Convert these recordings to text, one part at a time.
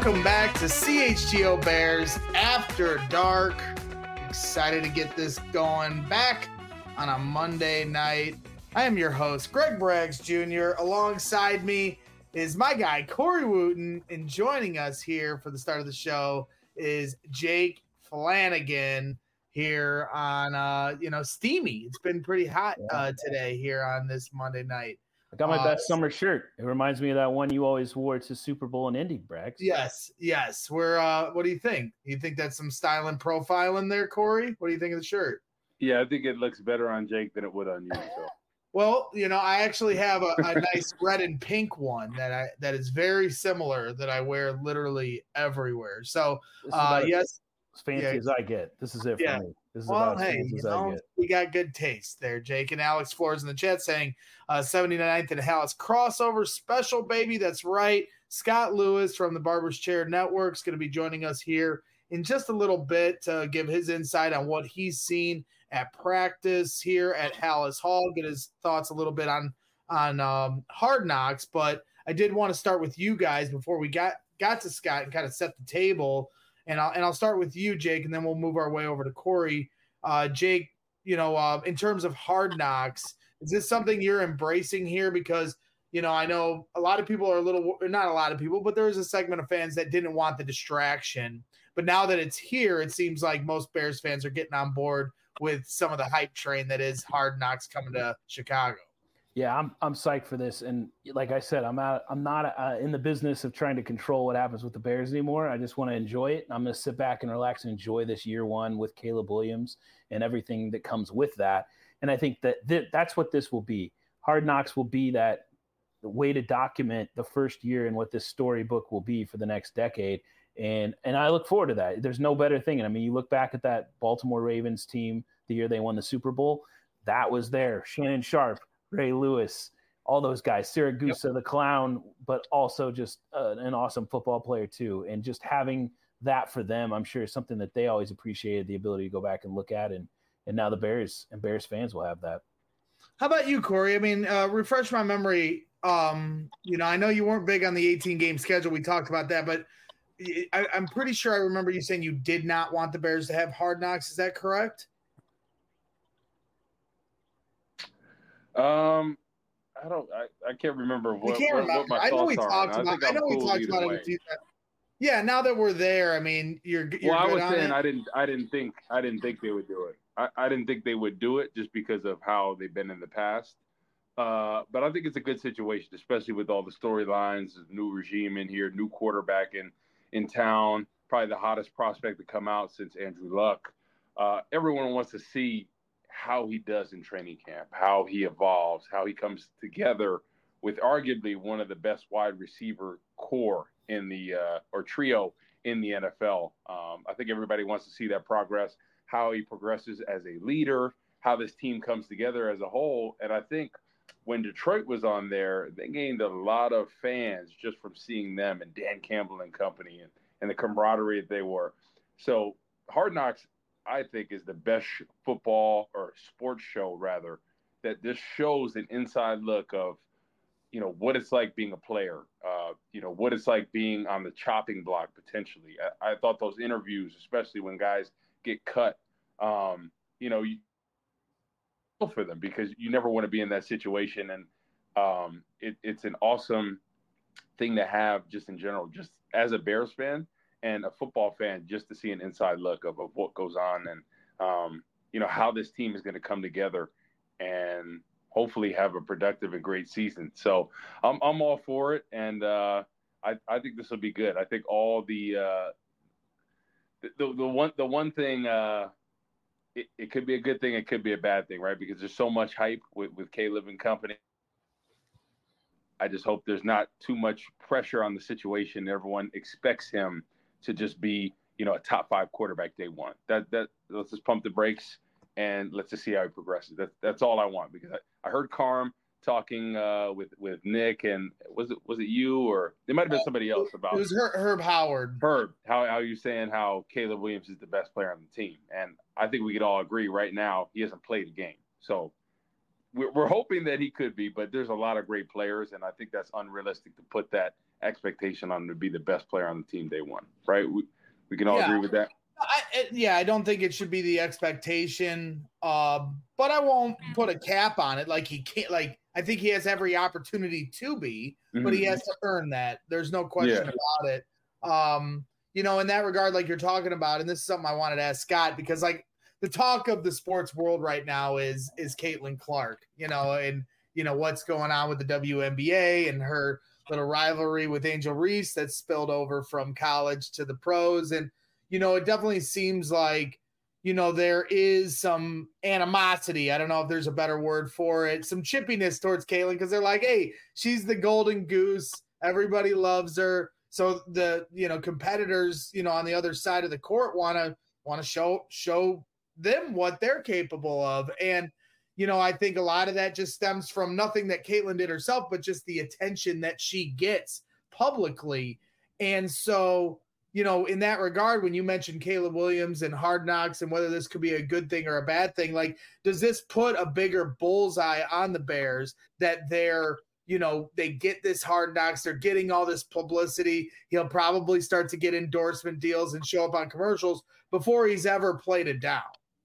Welcome back to CHGO Bears After Dark. Excited to get this going back on a Monday night. I am your host, Greg Braggs Jr. Alongside me is my guy, Corey Wooten. And joining us here for the start of the show is Jake Flanagan here on, Steamy. It's been pretty hot today here on this Monday night. I got my best summer shirt. It reminds me of that one you always wore to Super Bowl in Indy, Braggs. Yes. We're what do you think? You think that's some style and profile in there, Corey? What do you think of the shirt? Yeah, I think it looks better on Jake than it would on you. So. Well, I actually have a nice red and pink one that is very similar that I wear literally everywhere. So, yes. As fancy as I get. This is it for me. This is about as fancy as I get. We got good taste there, Jake. And Alex Flores in the chat saying 79th and Hallis crossover special, baby. That's right. Scott Lewis from the Barber's Chair Network is going to be joining us here in just a little bit to give his insight on what he's seen at practice here at Hallis Hall, get his thoughts a little bit on Hard Knocks. But I did want to start with you guys before we got to Scott and kind of set the table. And I'll start with you, Jake, and then we'll move our way over to Corey. Jake, in terms of Hard Knocks, is this something you're embracing here? Because, I know a lot of people are not a lot of people, but there is a segment of fans that didn't want the distraction. But now that it's here, it seems like most Bears fans are getting on board with some of the hype train that is Hard Knocks coming to Chicago. Yeah, I'm psyched for this, and like I said, I'm not in the business of trying to control what happens with the Bears anymore. I just want to enjoy it. I'm going to sit back and relax and enjoy this year one with Caleb Williams and everything that comes with that. And I think that's what this will be. Hard Knocks will be that the way to document the first year and what this storybook will be for the next decade. And I look forward to that. There's no better thing. And I mean, you look back at that Baltimore Ravens team the year they won the Super Bowl. That was there. Shannon Sharp, Ray Lewis, all those guys, Siragusa, the clown, but also just an awesome football player too. And just having that for them, I'm sure is something that they always appreciated, the ability to go back and look at. And now the Bears and Bears fans will have that. How about you, Corey? I mean, refresh my memory. I know you weren't big on the 18-game schedule. We talked about that, but I'm pretty sure I remember you saying you did not want the Bears to have Hard Knocks. Is that correct? I can't remember what my thoughts are. I know we talked about it a few times. Yeah, now that we're there, I mean, you're well, I good was on saying it? I didn't think they would do it. I didn't think they would do it just because of how they've been in the past. But I think it's a good situation, especially with all the storylines, new regime in here, new quarterback in town, probably the hottest prospect to come out since Andrew Luck. Everyone wants to see how he does in training camp, how he evolves, how he comes together with arguably one of the best wide receiver core in the or trio in the NFL. I think everybody wants to see that progress, how he progresses as a leader, how this team comes together as a whole. And I think when Detroit was on there, they gained a lot of fans just from seeing them and Dan Campbell and company and the camaraderie that they were. So Hard Knocks, I think, is the best football or sports show, rather, that this shows an inside look of, what it's like being a player, what it's like being on the chopping block potentially. I thought those interviews, especially when guys get cut, you feel for them because you never want to be in that situation. And it's an awesome thing to have just in general, just as a Bears fan and a football fan, just to see an inside look of what goes on and, how this team is going to come together and hopefully have a productive and great season. So I'm all for it. And I think this will be good. I think all the one thing, it could be a good thing. It could be a bad thing, right? Because there's so much hype with Caleb and company. I just hope there's not too much pressure on the situation. Everyone expects him to just be, a top 5 quarterback day one. That let's just pump the brakes and let's just see how he progresses. That's all I want, because I heard Carm talking with Nick, and was it you, or it might have been somebody else about it was Herb Howard. Herb, how you saying how Caleb Williams is the best player on the team, and I think we could all agree right now he hasn't played a game. So we're hoping that he could be, but there's a lot of great players, and I think that's unrealistic to put that expectation on him to be the best player on the team day one, right? We can all agree with that. I don't think it should be the expectation, but I won't put a cap on it. Like he can't. Like I think he has every opportunity to be, but he has to earn that. There's no question about it. In that regard, like you're talking about, and this is something I wanted to ask Scott, because like the talk of the sports world right now is Caitlin Clark, and what's going on with the WNBA and her little rivalry with Angel Reese that's spilled over from college to the pros. And, it definitely seems like, there is some animosity. I don't know if there's a better word for it. Some chippiness towards Caitlin, because they're like, hey, she's the golden goose. Everybody loves her. So the, competitors, on the other side of the court want to show them what they're capable of. And, I think a lot of that just stems from nothing that Caitlin did herself, but just the attention that she gets publicly. And so, in that regard, when you mentioned Caleb Williams and Hard Knocks and whether this could be a good thing or a bad thing, like, does this put a bigger bullseye on the Bears that they're, they get this Hard Knocks, they're getting all this publicity. He'll probably start to get endorsement deals and show up on commercials before he's ever played it down.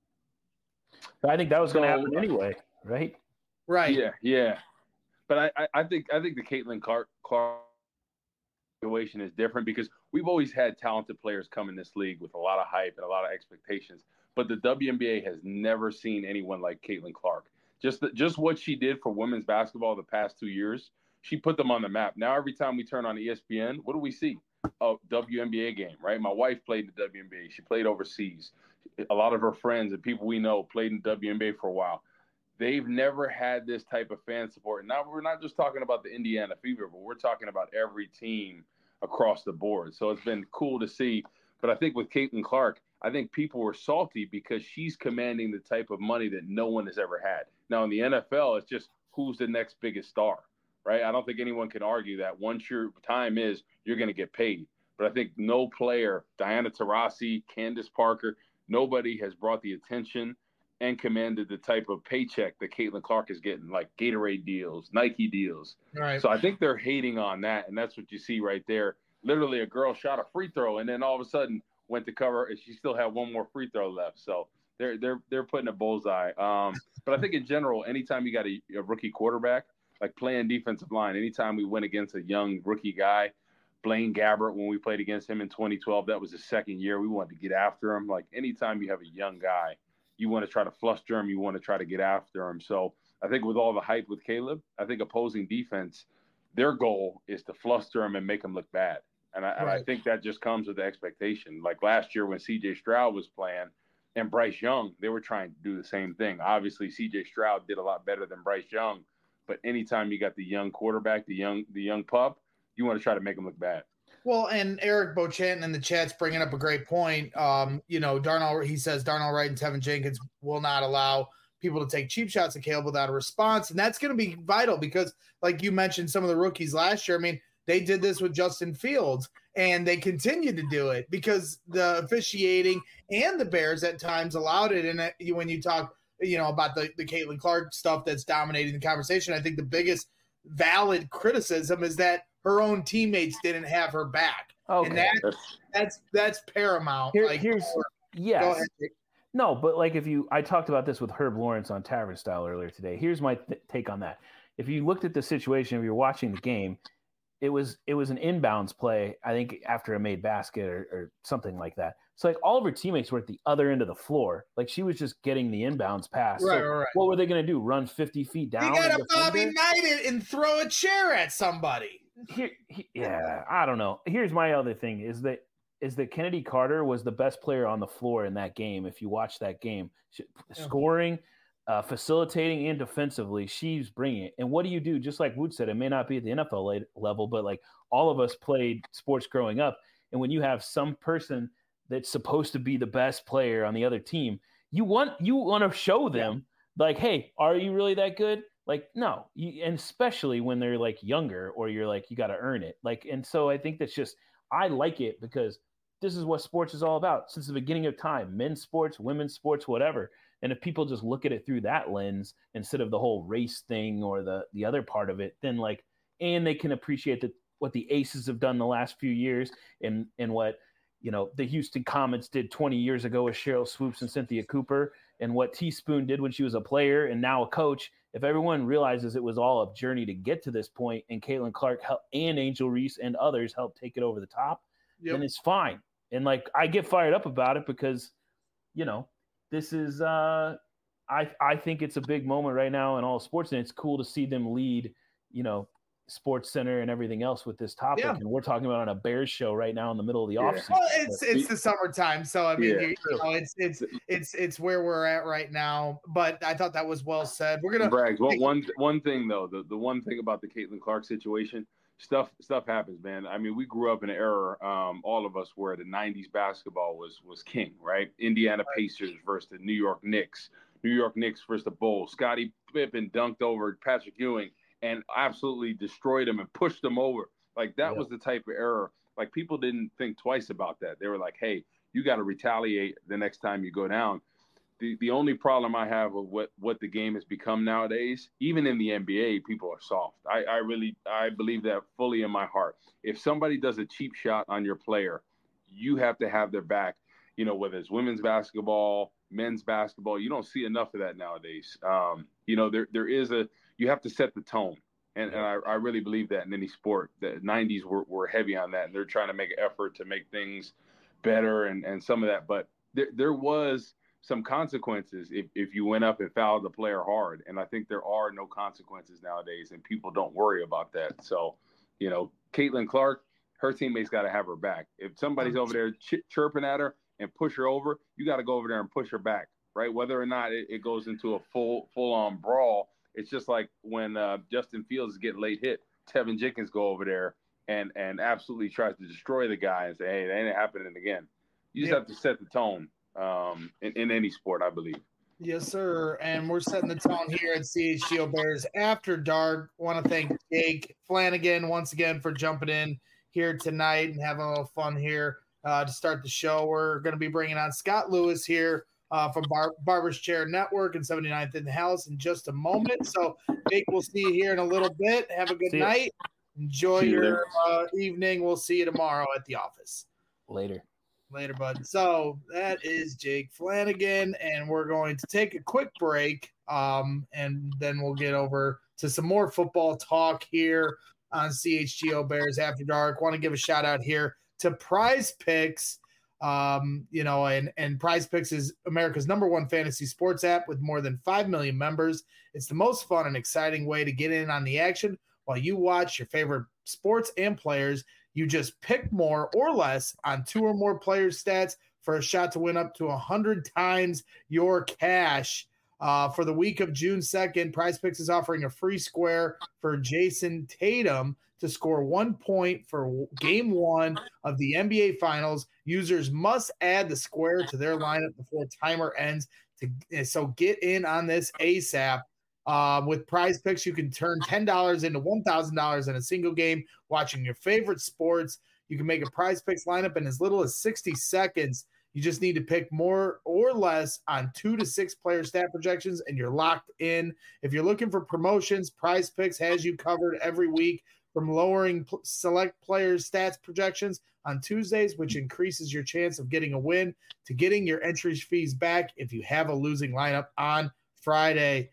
I think that was going to happen anyway, right? Right. Yeah. But I think the Caitlin Clark situation is different because we've always had talented players come in this league with a lot of hype and a lot of expectations. But the WNBA has never seen anyone like Caitlin Clark. Just what she did for women's basketball the past 2 years, she put them on the map. Now every time we turn on ESPN, what do we see? A WNBA game, right? My wife played in the WNBA. She played overseas. A lot of her friends and people we know played in WNBA for a while. They've never had this type of fan support. And now we're not just talking about the Indiana Fever, but we're talking about every team across the board. So it's been cool to see. But I think with Caitlin Clark, I think people were salty because she's commanding the type of money that no one has ever had. Now in the NFL, it's just who's the next biggest star, right? I don't think anyone can argue that once your time is, you're going to get paid. But I think no player, Diana Taurasi, Candace Parker, nobody has brought the attention and commanded the type of paycheck that Caitlin Clark is getting, like Gatorade deals, Nike deals. Right. So I think they're hating on that, and that's what you see right there. Literally, a girl shot a free throw, and then all of a sudden went to cover, and she still had one more free throw left. So they're putting a bullseye. But I think in general, anytime you got a rookie quarterback, like playing defensive line, anytime we went against a young rookie guy, Blaine Gabbert, when we played against him in 2012, that was his second year. We wanted to get after him. Like anytime you have a young guy, you want to try to fluster him. You want to try to get after him. So I think with all the hype with Caleb, I think opposing defense, their goal is to fluster him and make him look bad. And I think that just comes with the expectation. Like last year when C.J. Stroud was playing and Bryce Young, they were trying to do the same thing. Obviously, C.J. Stroud did a lot better than Bryce Young. But anytime you got the young quarterback, the young pup, you want to try to make him look bad. Well, and Eric Beauchamp in the chat's bringing up a great point. He says Darnell Wright and Tevin Jenkins will not allow people to take cheap shots at Caleb without a response. And that's going to be vital because, like you mentioned, some of the rookies last year, I mean, they did this with Justin Fields, and they continue to do it because the officiating and the Bears at times allowed it. And when you talk, about the Caitlin Clark stuff that's dominating the conversation, I think the biggest valid criticism is that her own teammates didn't have her back. Okay. And that's paramount. Go ahead. No, but like I talked about this with Herb Lawrence on Tavern Style earlier today. Here's my take on that. If you looked at the situation, if you're watching the game, it was an inbounds play, I think after a made basket or something like that. So like all of her teammates were at the other end of the floor. Like she was just getting the inbounds pass. Right. What were they going to do? Run 50 feet down? You got to Bobby Knight it and throw a chair at somebody. I don't know. Here's my other thing is that Kennedy Carter was the best player on the floor in that game. If you watch that game, scoring, facilitating, and defensively, she's bringing it. And what do you do? Just like Wood said, it may not be at the NFL level, but like all of us played sports growing up. And when you have some person that's supposed to be the best player on the other team, you want to show them like, hey, are you really that good? Like, no, and especially when they're like younger or you're like, you got to earn it. Like, and so I think that's just, I like it because this is what sports is all about since the beginning of time, men's sports, women's sports, whatever. And if people just look at it through that lens instead of the whole race thing or the other part of it, then like, and they can appreciate that what the Aces have done the last few years, and what the Houston Comets did 20 years ago with Cheryl Swoops and Cynthia Cooper, and what Teaspoon did when she was a player and now a coach. If everyone realizes it was all a journey to get to this point, and Caitlin Clark and Angel Reese and others helped take it over the top, then it's fine. And like, I get fired up about it because, this is I think it's a big moment right now in all sports, and it's cool to see them lead, Sports Center and everything else with this topic. And we're talking about on a Bears show right now in the middle of the offseason. Well, it's the summertime, so I mean, it's where we're at right now. But I thought that was well said. We're gonna Braggs. One thing though, the one thing about the Caitlin Clark situation, stuff happens, man. I mean, we grew up in an era, all of us, where the '90s basketball was king, right? Indiana Pacers versus the New York Knicks versus the Bulls. Scottie Pippen dunked over Patrick Ewing and absolutely destroyed him and pushed him over. Like, that was the type of error. Like, people didn't think twice about that. They were like, hey, you got to retaliate the next time you go down. The only problem I have with what the game has become nowadays, even in the NBA, people are soft. I believe that fully in my heart. If somebody does a cheap shot on your player, you have to have their back. Whether it's women's basketball, men's basketball, you don't see enough of that nowadays. You have to set the tone. And I really believe that in any sport. The 90s were heavy on that, and they're trying to make an effort to make things better and some of that. But there was some consequences if you went up and fouled the player hard. And I think there are no consequences nowadays, and people don't worry about that. So, Caitlin Clark, her teammates got to have her back. If somebody's over there chirping at her and push her over, you got to go over there and push her back, right? Whether or not it goes into a full-on brawl. It's just like when Justin Fields is getting late hit, Tevin Jenkins go over there and absolutely tries to destroy the guy and say, hey, that ain't happening again. You just have to set the tone in any sport, I believe. Yes, sir. And we're setting the tone here at CHGO Bears After Dark. Want to thank Jake Flanagan once again for jumping in here tonight and having a little fun here to start the show. We're going to be bringing on Scott Lewis here from Barber's Chair Network and 79th in the House in just a moment. So, Jake, we'll see you here in a little bit. Have a good night. Enjoy your evening. We'll see you tomorrow at the office. Later, bud. So that is Jake Flanagan, and we're going to take a quick break, and then we'll get over to some more football talk here on CHGO Bears After Dark. Want to give a shout out here to Prize Picks. And Prize Picks is America's #1 fantasy sports app with more than 5 million members. It's the most fun and exciting way to get in on the action while you watch your favorite sports and players. You just pick more or less on 2 or more players' stats for a shot to win up to 100 times your cash. For the week of June 2nd, Prize Picks is offering a free square for Jason Tatum to score 1 point for game 1 of the NBA Finals. Users must add the square to their lineup before timer ends. So get in on this ASAP. With Prize Picks, you can turn $10 into $1,000 in a single game watching your favorite sports. You can make a Prize Picks lineup in as little as 60 seconds. You just need to pick more or less on 2 to 6 player stat projections, and you're locked in. If you're looking for promotions, Prize Picks has you covered every week, from lowering select players' stats projections on Tuesdays, which increases your chance of getting a win, to getting your entry fees back if you have a losing lineup on Fridays.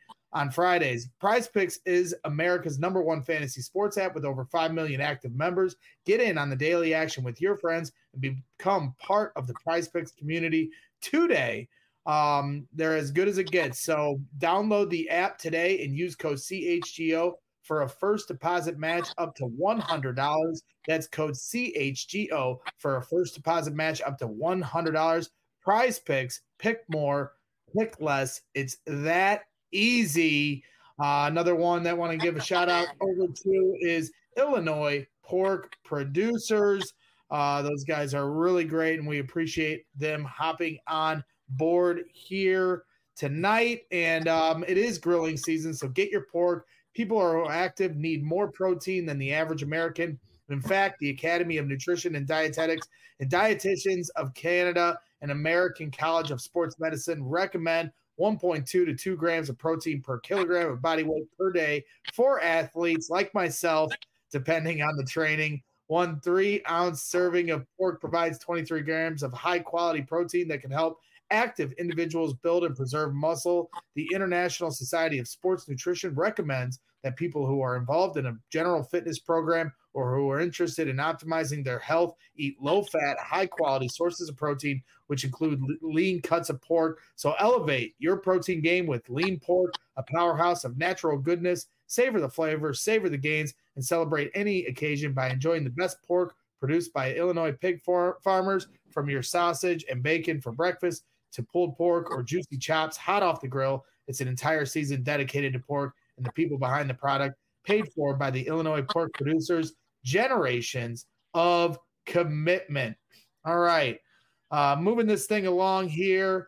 Prize Picks is America's #1 fantasy sports app with over 5 million active members. Get in on the daily action with your friends and become part of the Prize Picks community today. They're as good as it gets. So download the app today and use code CHGO for a first deposit match up to $100. That's code CHGO for a first deposit match up to $100. Prize Picks, pick more, pick less. It's that easy. Another one that I want to give a shout out over to is Illinois Pork Producers. Those guys are really great, and we appreciate them hopping on board here tonight. And it is grilling season, so get your pork. People who are active need more protein than the average American. In fact, the Academy of Nutrition and Dietetics and Dietitians of Canada and American College of Sports Medicine recommend 1.2 to 2 grams of protein per kilogram of body weight per day for athletes like myself depending on the training. 1 3-ounce serving of pork provides 23 grams of high-quality protein that can help active individuals build and preserve muscle. The International Society of Sports Nutrition recommends that people who are involved in a general fitness program or who are interested in optimizing their health eat low-fat, high-quality sources of protein, which include lean cuts of pork. So elevate your protein game with lean pork, a powerhouse of natural goodness. Savor the flavor, savor the gains, and celebrate any occasion by enjoying the best pork produced by Illinois pig farmers. From your sausage and bacon for breakfast to pulled pork or juicy chops hot off the grill, it's an entire season dedicated to pork and the people behind the product, paid for by the Illinois pork producers. Generations of commitment. All right. Moving this thing along here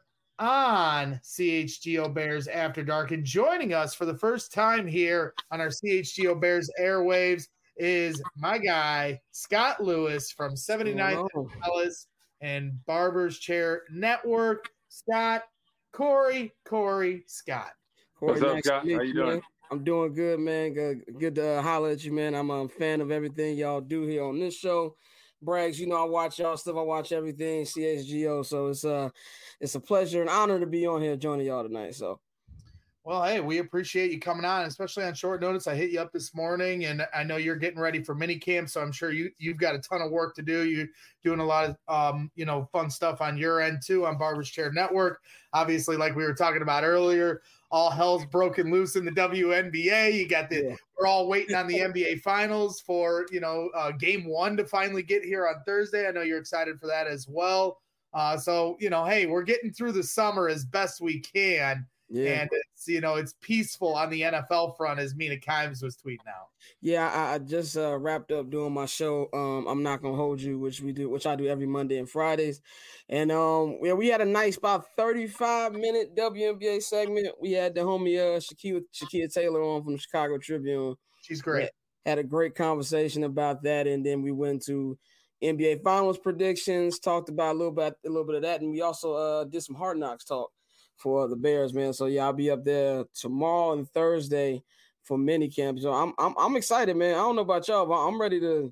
on CHGO Bears After Dark, and joining us for the first time here on our CHGO Bears airwaves is my guy, Scott Lewis from 79th Dallas and Barber's Chair Network. Scott, Corey, Scott. What's up, Scott? How you doing? I'm doing good, man. Good to holler at you, man. I'm a fan of everything y'all do here on this show. Braggs, I watch y'all stuff. I watch everything CHGO. So it's a pleasure and honor to be on here joining y'all tonight. So, well, hey, we appreciate you coming on, especially on short notice. I hit you up this morning, and I know you're getting ready for mini camp, so I'm sure you've got a ton of work to do. You're doing a lot of fun stuff on your end too on Barber's Chair Network. Obviously, like we were talking about earlier, all hell's broken loose in the WNBA. You got we're all waiting on the NBA Finals for Game 1 to finally get here on Thursday. I know you're excited for that as well. So hey, we're getting through the summer as best we can. Yeah. And it's peaceful on the NFL front, as Mina Kimes was tweeting out. Yeah, I just wrapped up doing my show. I'm Not Gonna Hold You, which I do every Monday and Fridays. And we had a nice about 35-minute WNBA segment. We had the homie Shakia Taylor on from the Chicago Tribune. She's great. Had a great conversation about that, and then we went to NBA Finals predictions, talked about a little bit of that, and we also did some Hard Knocks talk for the Bears, man. So yeah, I'll be up there tomorrow and Thursday for mini camp. So I'm excited, man. I don't know about y'all, but I'm ready to,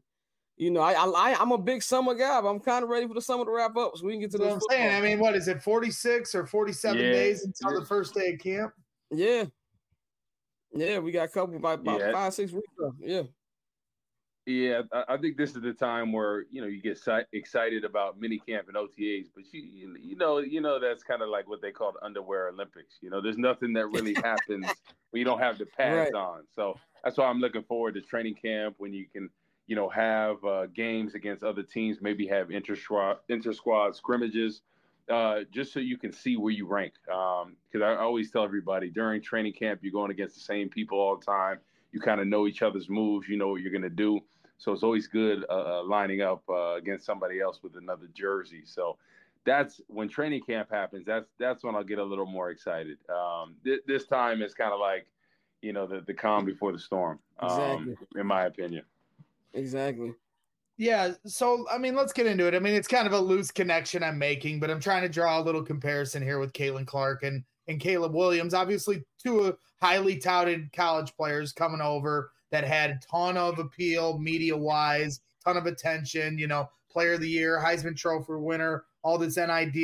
I'm a big summer guy, but I'm kind of ready for the summer to wrap up so we can get to this. I'm saying, I mean, what is it, 46 or 47 days until the first day of camp? Yeah. Yeah, we got a couple about 5-6 weeks left. Yeah. Yeah, I think this is the time where you get excited about mini camp and OTAs, but you know that's kind of like what they call the underwear Olympics. There's nothing that really happens when you don't have the pads on. So that's why I'm looking forward to training camp when you can have games against other teams, maybe have inter-squad scrimmages, just so you can see where you rank. Because I always tell everybody during training camp you're going against the same people all the time. You kind of know each other's moves. You know what you're going to do. So it's always good lining up against somebody else with another jersey. So that's when training camp happens. That's when I'll get a little more excited. This time is kind of like, the calm before the storm, exactly. In my opinion. Exactly. Yeah. So, I mean, let's get into it. I mean, it's kind of a loose connection I'm making, but I'm trying to draw a little comparison here with Caitlin Clark and Caleb Williams. Obviously, two highly touted college players coming over that had a ton of appeal media-wise, ton of attention, player of the year, Heisman Trophy winner, all this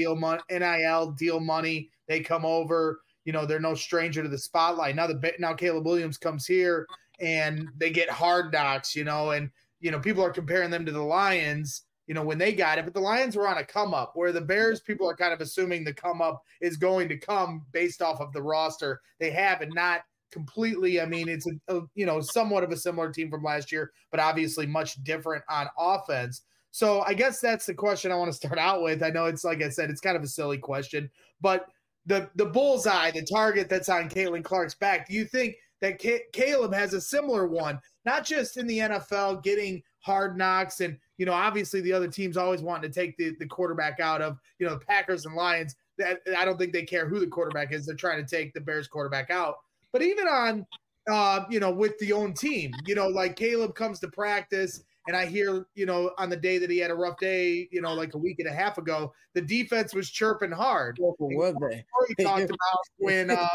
NIL deal money. They come over, they're no stranger to the spotlight. Now Caleb Williams comes here and they get Hard Knocks, and people are comparing them to the Lions, when they got it, but the Lions were on a come up, where the Bears, people are kind of assuming the come up is going to come based off of the roster they have, and not completely. I mean, it's somewhat of a similar team from last year, but obviously much different on offense. So I guess that's the question I want to start out with. I know it's, like I said, it's kind of a silly question, but the bullseye, the target that's on Caitlin Clark's back, do you think that Caleb has a similar one, not just in the NFL getting Hard Knocks and, obviously the other teams always wanting to take the quarterback out of, the Packers and Lions. That I don't think they care who the quarterback is. They're trying to take the Bears quarterback out. But even on, with the own team, like Caleb comes to practice and I hear, on the day that he had a rough day, like a week and a half ago, the defense was chirping hard. What were they? He talked about when,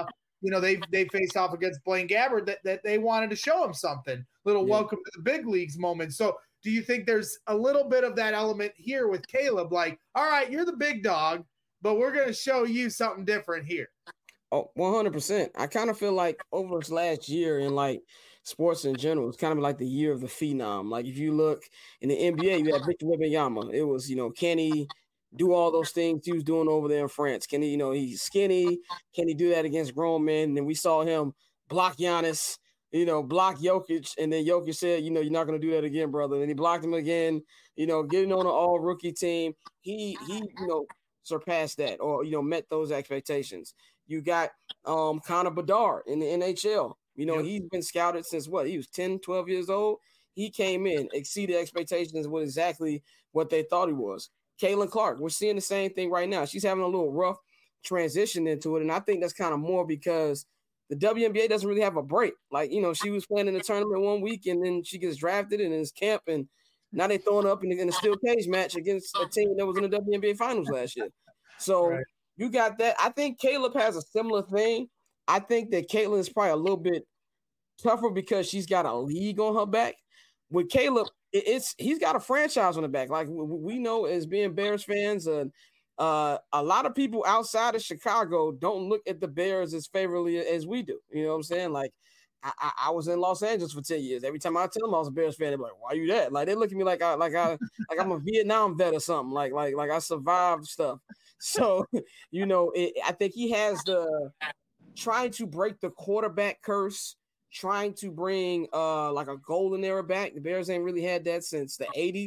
they faced off against Blaine Gabbert that they wanted to show him something, little welcome to the big leagues moment. So do you think there's a little bit of that element here with Caleb? Like, all right, you're the big dog, but we're going to show you something different here. Oh, 100%. I kind of feel like over this last year in like sports in general, it's kind of like the year of the phenom. Like if you look in the NBA, you had Victor Wembanyama. It was, can he do all those things he was doing over there in France? Can he, he's skinny. Can he do that against grown men? And then we saw him block Giannis, block Jokic. And then Jokic said, you're not going to do that again, brother. And he blocked him again, getting on an all rookie team. He surpassed that or, met those expectations. You got Connor Bedard in the NHL. He's been scouted since he was 10, 12 years old. He came in, exceeded expectations with exactly what they thought he was. Caitlin Clark, we're seeing the same thing right now. She's having a little rough transition into it. And I think that's kind of more because the WNBA doesn't really have a break. Like, she was playing in the tournament one week and then she gets drafted in his camp. And now they're throwing up in a steel cage match against a team that was in the WNBA finals last year. So you got that. I think Caleb has a similar thing. I think that Caitlin is probably a little bit tougher because she's got a league on her back. With Caleb, he's got a franchise on the back. Like we know as being Bears fans, a lot of people outside of Chicago don't look at the Bears as favorably as we do. You know what I'm saying? Like I was in Los Angeles for 10 years. Every time I tell them I was a Bears fan, they're like, "Why you that?" Like they look at me like I'm a Vietnam vet or something. Like I survived stuff. So I think he has the trying to break the quarterback curse, trying to bring like a golden era back. The Bears ain't really had that since the 80s.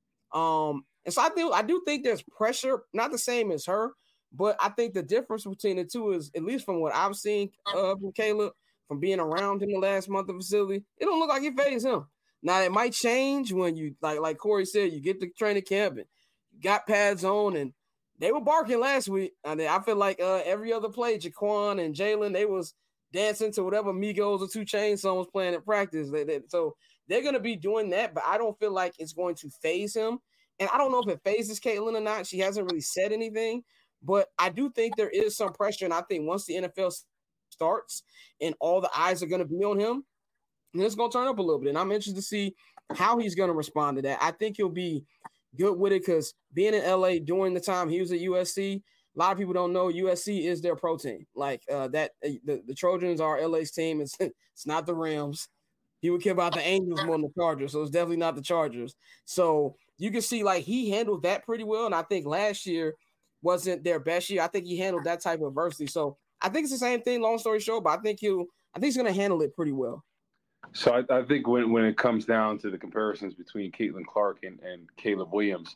And so I do think there's pressure, not the same as her, but I think the difference between the two is, at least from what I've seen from Caleb, from being around him the last month of facility, it don't look like it fazed him. Now it might change when you like Corey said, you get to training camp and you got pads on, and they were barking last week. And I feel like every other play, Jaquan and Jalen, they was dancing to whatever Migos or 2 Chainz song was playing at practice. So they're going to be doing that, but I don't feel like it's going to faze him. And I don't know if it phases Caitlin or not. She hasn't really said anything, but I do think there is some pressure. And I think once the NFL starts and all the eyes are going to be on him, then it's going to turn up a little bit. And I'm interested to see how he's going to respond to that. I think he'll be good with it because being in LA during the time he was at USC, a lot of people don't know USC is their pro team. Like the Trojans are LA's team. It's not the Rams. He would care about the Angels more than the Chargers, so it's definitely not the Chargers. So you can see like he handled that pretty well, and I think last year wasn't their best year. I think he handled that type of adversity. So I think it's the same thing. Long story short, but I think he's going to handle it pretty well. So I think when it comes down to the comparisons between Caitlin Clark and Caleb Williams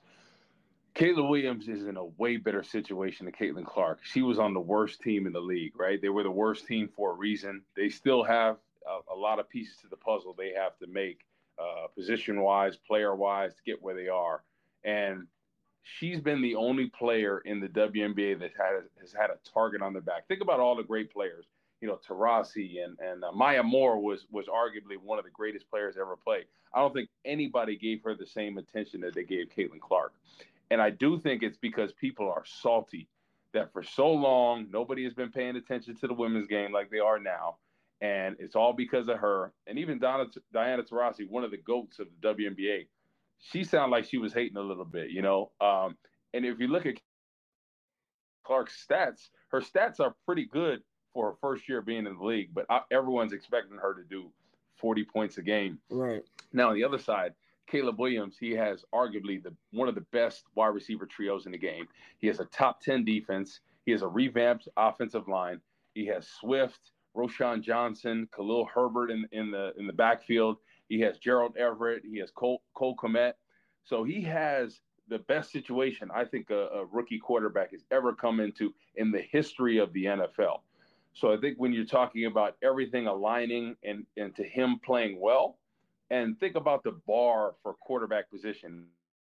is in a way better situation than Caitlin Clark. She was on the worst team in the league, right? They were the worst team for a reason. They still have a lot of pieces to the puzzle they have to make position-wise, player-wise, to get where they are. And she's been the only player in the WNBA that has had a target on their back. Think about all the great players. Taurasi and Maya Moore was arguably one of the greatest players ever played. I don't think anybody gave her the same attention that they gave Caitlin Clark. And I do think it's because people are salty that for so long, nobody has been paying attention to the women's game like they are now. And it's all because of her. And even Diana Taurasi, one of the GOATs of the WNBA, she sounded like she was hating a little bit, And if you look at Clark's stats, her stats are pretty good for her first year being in the league, but everyone's expecting her to do 40 points a game. Right. Now, on the other side, Caleb Williams, he has arguably one of the best wide receiver trios in the game. He has a top 10 defense. He has a revamped offensive line. He has Swift, Roshan Johnson, Khalil Herbert in the backfield. He has Gerald Everett. He has Cole Kmet. So he has the best situation I think a rookie quarterback has ever come into in the history of the NFL. So I think when you're talking about everything aligning and to him playing well, and think about the bar for quarterback position,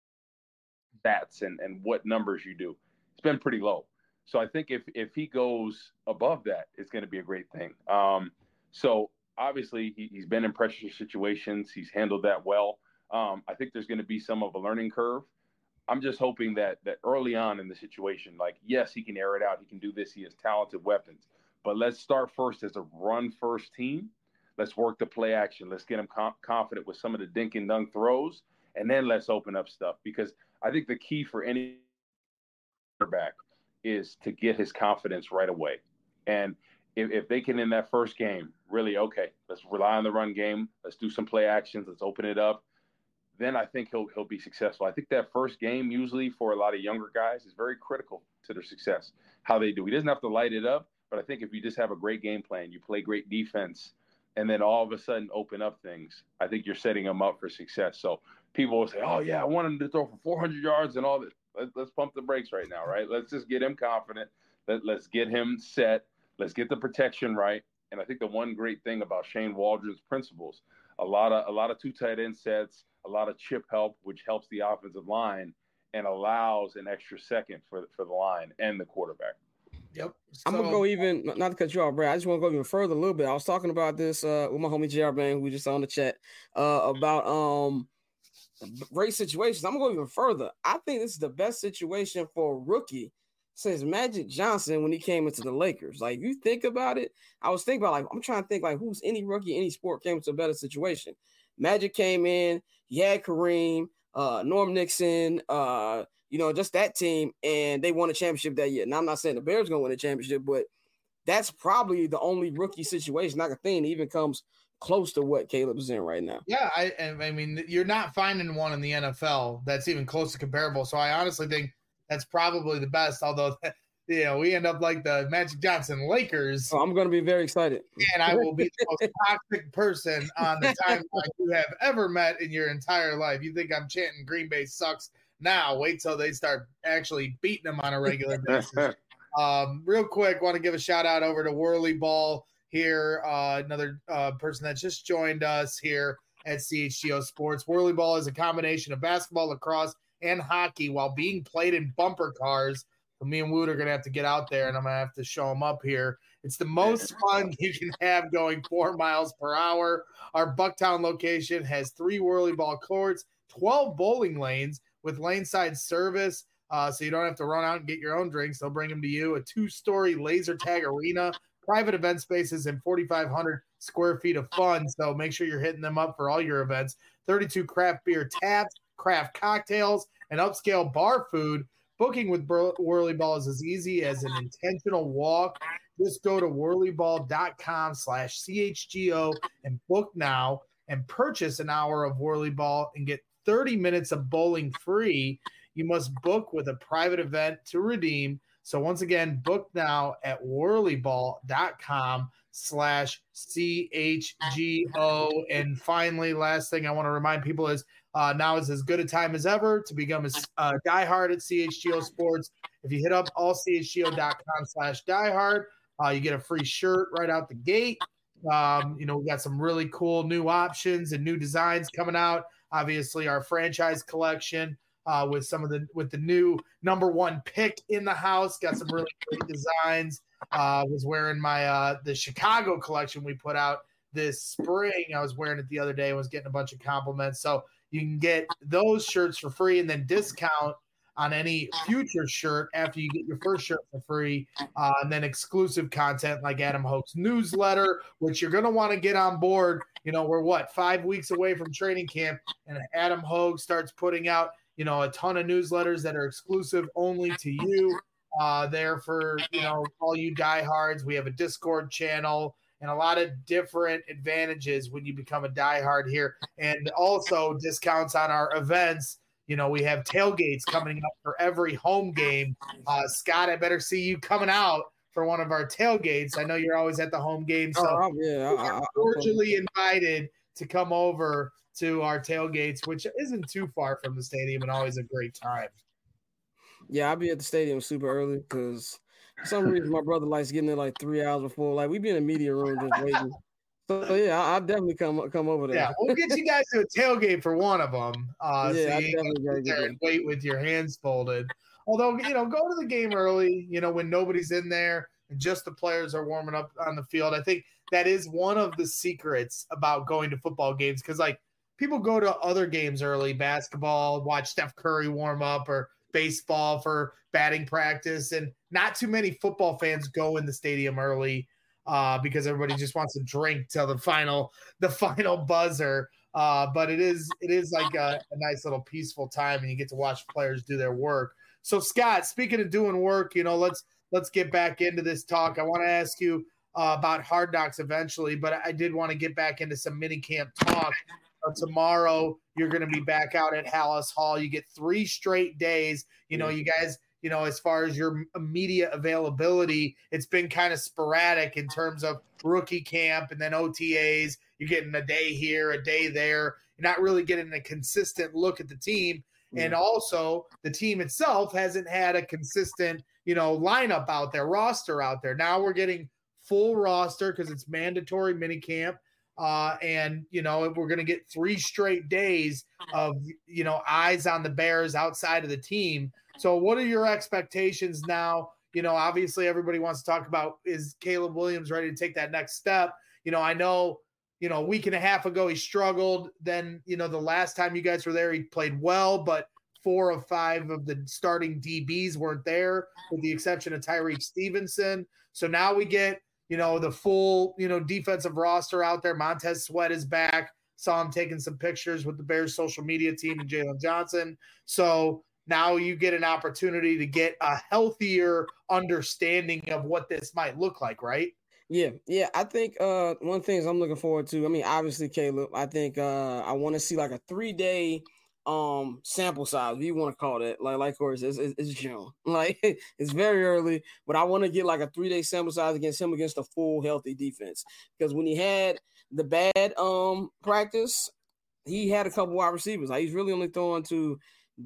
stats and what numbers you do, it's been pretty low. So I think if he goes above that, it's going to be a great thing. So obviously he's been in pressure situations. He's handled that well. I think there's going to be some of a learning curve. I'm just hoping that early on in the situation, like, yes, he can air it out. He can do this. He has talented weapons. But let's start first as a run-first team. Let's work the play action. Let's get him confident with some of the dink and dunk throws, and then let's open up stuff. Because I think the key for any quarterback is to get his confidence right away. And if they can, in that first game, really, okay, let's rely on the run game. Let's do some play actions. Let's open it up. Then I think he'll be successful. I think that first game, usually for a lot of younger guys, is very critical to their success, how they do. He doesn't have to light it up, but I think if you just have a great game plan, you play great defense, and then all of a sudden open up things, I think you're setting him up for success. So people will say, oh, yeah, I want him to throw for 400 yards and all this. Let's pump the brakes right now, right? Let's just get him confident. Let's get him set. Let's get the protection right. And I think the one great thing about Shane Waldron's principles, a lot of two tight end sets, a lot of chip help, which helps the offensive line and allows an extra second for the line and the quarterback. Yep. I'm going to go even, not to cut you off, Brad, I just want to go even further a little bit. I was talking about this with my homie JR Bang, who just on the chat, about great situations. I'm going to go even further. I think this is the best situation for a rookie since Magic Johnson when he came into the Lakers. Like, if you think about it, I was thinking about, like, I'm trying to think, like, who's any rookie, any sport came into a better situation. Magic came in, he had Kareem, Norm Nixon, just that team, and they won a championship that year. Now, I'm not saying the Bears going to win a championship, but that's probably the only rookie situation I can think that even comes close to what Caleb is in right now. Yeah, I mean, you're not finding one in the NFL that's even close to comparable. So I honestly think that's probably the best, although we end up like the Magic Johnson Lakers. Oh, I'm going to be very excited. And I will be the most toxic person on the timeline you have ever met in your entire life. You think I'm chanting Green Bay sucks now. Wait till they start actually beating them on a regular basis. Real quick, want to give a shout-out over to Whirly Ball here, another person that just joined us here at CHGO Sports. Whirly Ball is a combination of basketball, lacrosse, and hockey while being played in bumper cars. So me and Wood are going to have to get out there, and I'm going to have to show them up here. It's the most fun you can have going 4 miles per hour. Our Bucktown location has 3 Whirly Ball courts, 12 bowling lanes with lane-side service, so you don't have to run out and get your own drinks. They'll bring them to you. A 2-story laser tag arena, private event spaces, and 4,500 square feet of fun. So make sure you're hitting them up for all your events. 32 craft beer taps, craft cocktails, and upscale bar food. Booking with Whirly Ball is as easy as an intentional walk. Just go to whirlyball.com/CHGO and book now and purchase an hour of Whirly Ball and get 30 minutes of bowling free. You must book with a private event to redeem. So once again, book now at whirlyball.com/CHGO. And finally, last thing I want to remind people is now is as good a time as ever to become a diehard at CHGO Sports. If you hit up allchgo.com/diehard, you get a free shirt right out the gate. We got some really cool new options and new designs coming out. Obviously, our franchise collection with the new number 1 pick in the house. Got some really great designs. Was wearing my the Chicago collection we put out this spring. I was wearing it the other day and was getting a bunch of compliments. So you can get those shirts for free and then discount on any future shirt after you get your first shirt for free. And then exclusive content like Adam Hoke's newsletter, which you're going to want to get on board. We're 5 weeks away from training camp, and Adam Hoke starts putting out, a ton of newsletters that are exclusive only to you. There for, all you diehards. We have a Discord channel and a lot of different advantages when you become a diehard here. And also discounts on our events. We have tailgates coming up for every home game. Scott, I better see you coming out for one of our tailgates. I know you're always at the home game. So you're cordially invited to come over to our tailgates, which isn't too far from the stadium and always a great time. Yeah, I'll be at the stadium super early because for some reason my brother likes getting there like 3 hours before. Like, we be in the media room just waiting. So yeah, I'll definitely come over there. Yeah, we'll get you guys to a tailgate for one of them. Yeah, so I you definitely can sit there and wait with your hands folded. Although, go to the game early, when nobody's in there and just the players are warming up on the field. I think that is one of the secrets about going to football games, because like people go to other games early, basketball, watch Steph Curry warm up, or baseball for batting practice, and not too many football fans go in the stadium early. because everybody just wants to drink till the final buzzer. But it is like a nice little peaceful time, and you get to watch players do their work. So Scott, speaking of doing work, let's get back into this talk. I want to ask you about Hard Knocks eventually, but I did want to get back into some minicamp talk. Tomorrow, you're going to be back out at Halas Hall. You get 3 straight days. You guys, as far as your media availability, it's been kind of sporadic in terms of rookie camp and then OTAs. You're getting a day here, a day there. You're not really getting a consistent look at the team. And also, the team itself hasn't had a consistent, lineup out there, roster out there. Now we're getting full roster because it's mandatory minicamp. And we're going to get 3 straight days of, eyes on the Bears outside of the team. So what are your expectations now? Obviously everybody wants to talk about, is Caleb Williams ready to take that next step? I know, a week and a half ago, he struggled. Then, the last time you guys were there, he played well, but 4 of 5 of the starting DBs weren't there, with the exception of Tyreek Stevenson. So now we get, the full, defensive roster out there. Montez Sweat is back. Saw him taking some pictures with the Bears social media team and Jalen Johnson. So now you get an opportunity to get a healthier understanding of what this might look like, right? Yeah. I think one of the things I'm looking forward to, obviously, Caleb, I think I want to see like a 3-day sample size, if you want to call it, like course it's June, like it's very early, but I want to get like a 3-day sample size against a full healthy defense, because when he had the bad practice, he had a couple wide receivers. Like, he's really only throwing to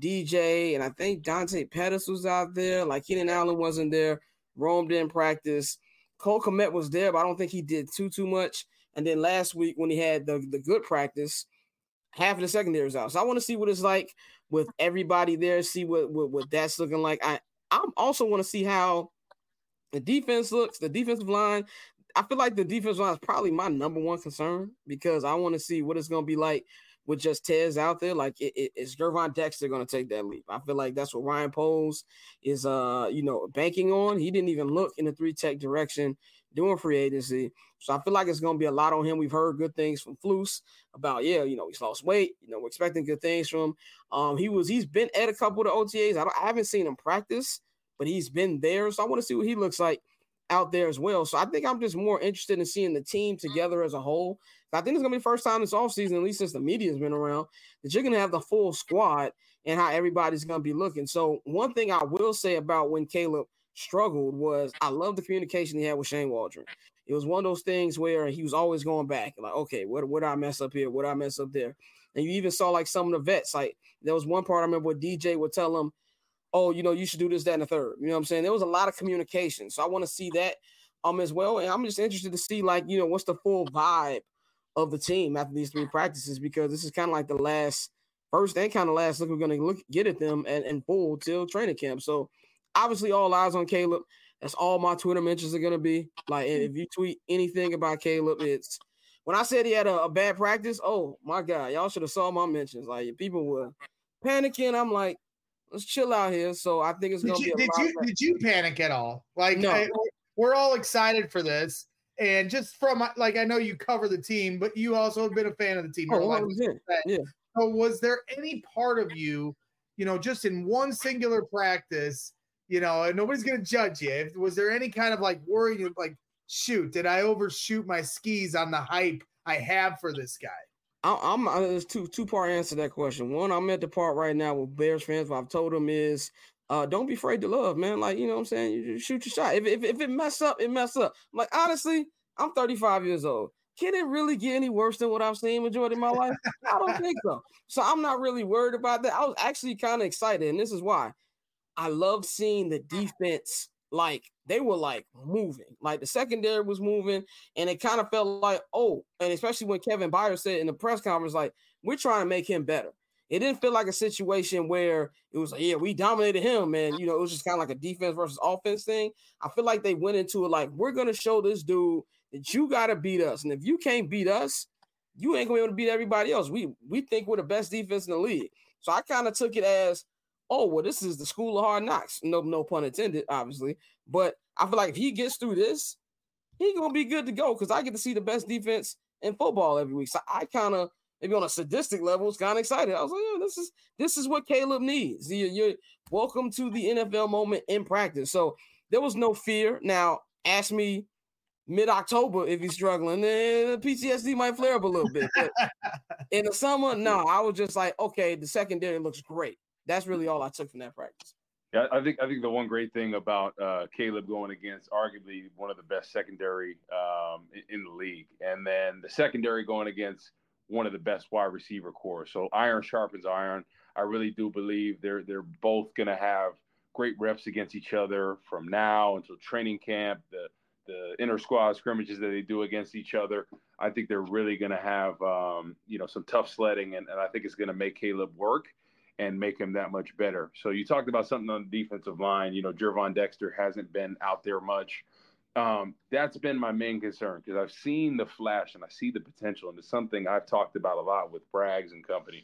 DJ, and I think Dante Pettis was out there. Like, Keenan Allen wasn't there. Rome didn't practice. Cole Kmet was there, but I don't think he did too much. And then last week when he had the good practice, half of the secondary is out. So I want to see what it's like with everybody there, see what that's looking like. I also want to see how the defense looks, the defensive line. I feel like the defensive line is probably my number one concern, because I want to see what it's going to be like with just Tez out there. Like, is Gervon Dexter going to take that leap? I feel like that's what Ryan Poles is, banking on. He didn't even look in the 3-tech direction doing free agency. So I feel like it's going to be a lot on him. We've heard good things from Flus about, he's lost weight. We're expecting good things from him. He's been at a couple of the OTAs. I haven't seen him practice, but he's been there. So I want to see what he looks like out there as well. So I think I'm just more interested in seeing the team together as a whole. I think it's going to be the first time this offseason, at least since the media's been around, that you're going to have the full squad and how everybody's going to be looking. So one thing I will say about when Caleb struggled was, I love the communication he had with Shane Waldron. It was one of those things where he was always going back, like, okay, what did I mess up here? What did I mess up there? And you even saw like some of the vets, like there was one part I remember where DJ would tell him, oh, you should do this, that, and the third. You know what I'm saying? There was a lot of communication. So I want to see that as well. And I'm just interested to see, like, what's the full vibe of the team after these 3 practices, because this is kind of like the first and kind of last look we're going to get at them and full till training camp. So obviously all eyes on Caleb. That's all my Twitter mentions are going to be. Like, if you tweet anything about Caleb, it's when I said he had a bad practice, oh my God, y'all should have saw my mentions. Like, people were panicking. I'm like, let's chill out here. So I think it's going to be Did you panic at all? Like, no. We're all excited for this. And just from, like, I know you cover the team, but you also have been a fan of the team. Yeah. So was there any part of you, just in one singular practice, and nobody's going to judge you, was there any kind of like worry, like, shoot, did I overshoot my skis on the hype I have for this guy? There's two-part answer to that question. One, I'm at the part right now with Bears fans. What I've told them is, don't be afraid to love, man. Like, you know what I'm saying? You just shoot your shot. If it mess up, it mess up. I'm like, honestly, I'm 35 years old. Can it really get any worse than what I've seen majority of my life? I don't think so. So I'm not really worried about that. I was actually kind of excited, and this is why. I love seeing the defense, like, they were, like, moving. Like, the secondary was moving, and it kind of felt like, oh, and especially when Kevin Byers said in the press conference, like, we're trying to make him better. It didn't feel like a situation where it was like, yeah, we dominated him, and, it was just kind of like a defense versus offense thing. I feel like they went into it like, we're going to show this dude that you got to beat us. And if you can't beat us, you ain't going to be able to beat everybody else. We think we're the best defense in the league. So I kind of took it as, oh, well, this is the school of hard knocks. No pun intended, obviously. But I feel like if he gets through this, he's going to be good to go because I get to see the best defense in football every week. So I kind of, maybe on a sadistic level, was kind of excited. I was like, yeah, this is what Caleb needs. You're welcome to the NFL moment in practice. So there was no fear. Now, ask me mid-October if he's struggling, then PTSD might flare up a little bit. But in the summer, no, I was just like, okay, the secondary looks great. That's really all I took from that practice. Yeah, I think the one great thing about Caleb going against arguably one of the best secondary in the league, and then the secondary going against one of the best wide receiver corps. So iron sharpens iron. I really do believe they're both going to have great reps against each other from now until training camp. The inter squad scrimmages that they do against each other, I think they're really going to have some tough sledding, and I think it's going to make Caleb work and make him that much better. So you talked about something on the defensive line. Gervon Dexter hasn't been out there much. That's been my main concern because I've seen the flash and I see the potential, and it's something I've talked about a lot with Braggs and company.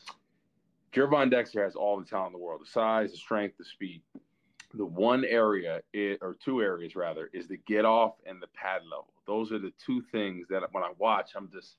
Gervon Dexter has all the talent in the world, the size, the strength, the speed. The one area, or two areas rather, is the get off and the pad level. Those are the two things that when I watch, I'm just,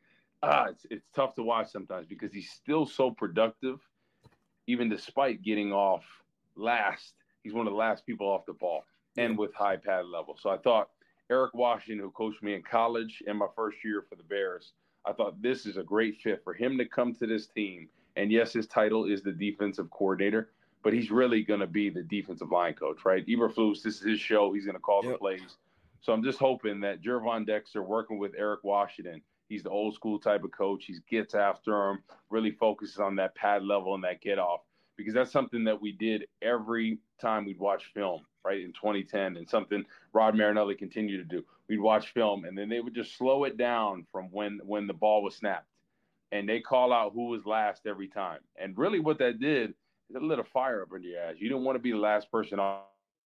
it's tough to watch sometimes because he's still so productive, even despite getting off last. He's one of the last people off the ball and with high pad level. So I thought Eric Washington, who coached me in college in my first year for the Bears, I thought this is a great fit for him to come to this team. And yes, his title is the defensive coordinator, but he's really going to be the defensive line coach, right? Eberflus, this is his show. He's going to call the plays. So I'm just hoping that Gervon Dexter, working with Eric Washington, he's the old school type of coach. He gets after him, really focuses on that pad level and that get off, because that's something that we did every time we'd watch film, right, in 2010, and something Rod Marinelli continued to do. We'd watch film, and then they would just slow it down from when the ball was snapped, and they call out who was last every time. And really what that did, it lit a fire up under your ass. You didn't want to be the last person off.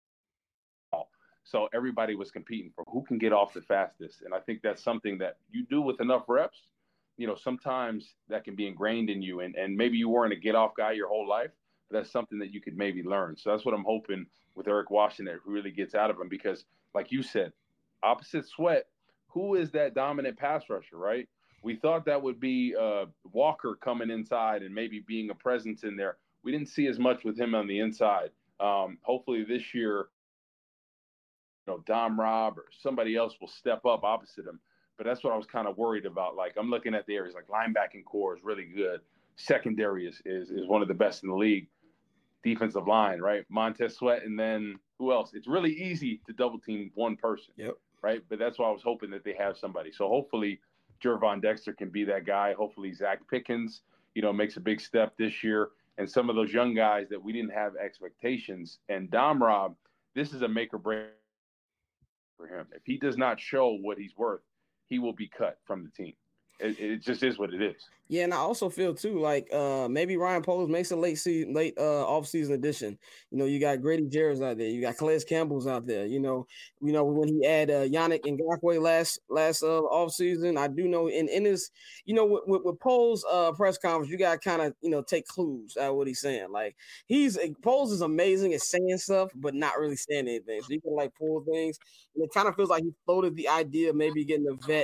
So everybody was competing for who can get off the fastest. And I think that's something that you do with enough reps. Sometimes that can be ingrained in you. And maybe you weren't a get-off guy your whole life, but that's something that you could maybe learn. So that's what I'm hoping with Eric Washington, that really gets out of him. Because, like you said, opposite Sweat, who is that dominant pass rusher, right? We thought that would be Walker coming inside and maybe being a presence in there. We didn't see as much with him on the inside. Hopefully this year, Dom Rob or somebody else will step up opposite him. But that's what I was kind of worried about. Like, I'm looking at the areas like linebacking core is really good. Secondary is one of the best in the league. Defensive line, right? Montez Sweat, and then who else? It's really easy to double team one person, right? But that's why I was hoping that they have somebody. So hopefully Gervon Dexter can be that guy. Hopefully Zach Pickens, makes a big step this year. And some of those young guys that we didn't have expectations. And Dom Rob, this is a make or break for him. If he does not show what he's worth, he will be cut from the team. It just is what it is. Yeah, and I also feel too like maybe Ryan Poles makes a late off-season addition. You got Grady Jarrett's out there, you got Calais Campbell's out there. When he had Yannick Ngakoue last off-season, I do know in his with Poles press conference, you got to kind of take clues out of what he's saying. Like Poles is amazing at saying stuff, but not really saying anything. So you can pull things, and it kind of feels like he floated the idea of maybe getting a vet.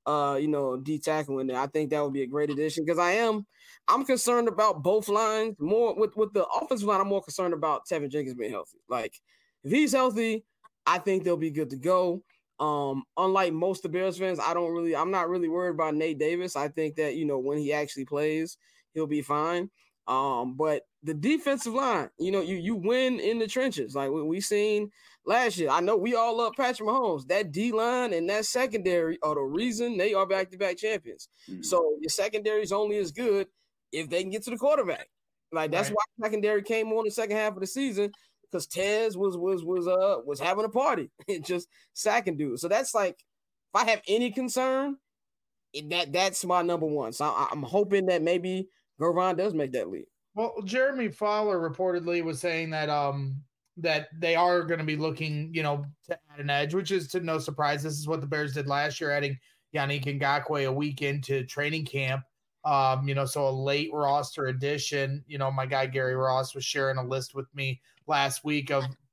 D tackle in there. I think that would be a great addition because I'm concerned about both lines more with the offensive line. I'm more concerned about Tevin Jenkins being healthy. Like if he's healthy, I think they'll be good to go. Unlike most of the Bears fans, I'm not really worried about Nate Davis. I think that, when he actually plays, he'll be fine. But the defensive line, you win in the trenches. Like we seen last year. I know we all love Patrick Mahomes. That D-line and that secondary are the reason they are back-to-back champions. Mm-hmm. So your secondary is only as good if they can get to the quarterback. Like that's why secondary came on the second half of the season, because Tez was having a party and just sacking dudes. So that's like, if I have any concern, that's my number one. So I'm hoping that maybe Gervon does make that leap. Well, Jeremy Fowler reportedly was saying that that they are going to be looking, to add an edge, which is to no surprise. This is what the Bears did last year, adding Yannick Ngakoue a week into training camp. So a late roster addition. My guy Gary Ross was sharing a list with me last week of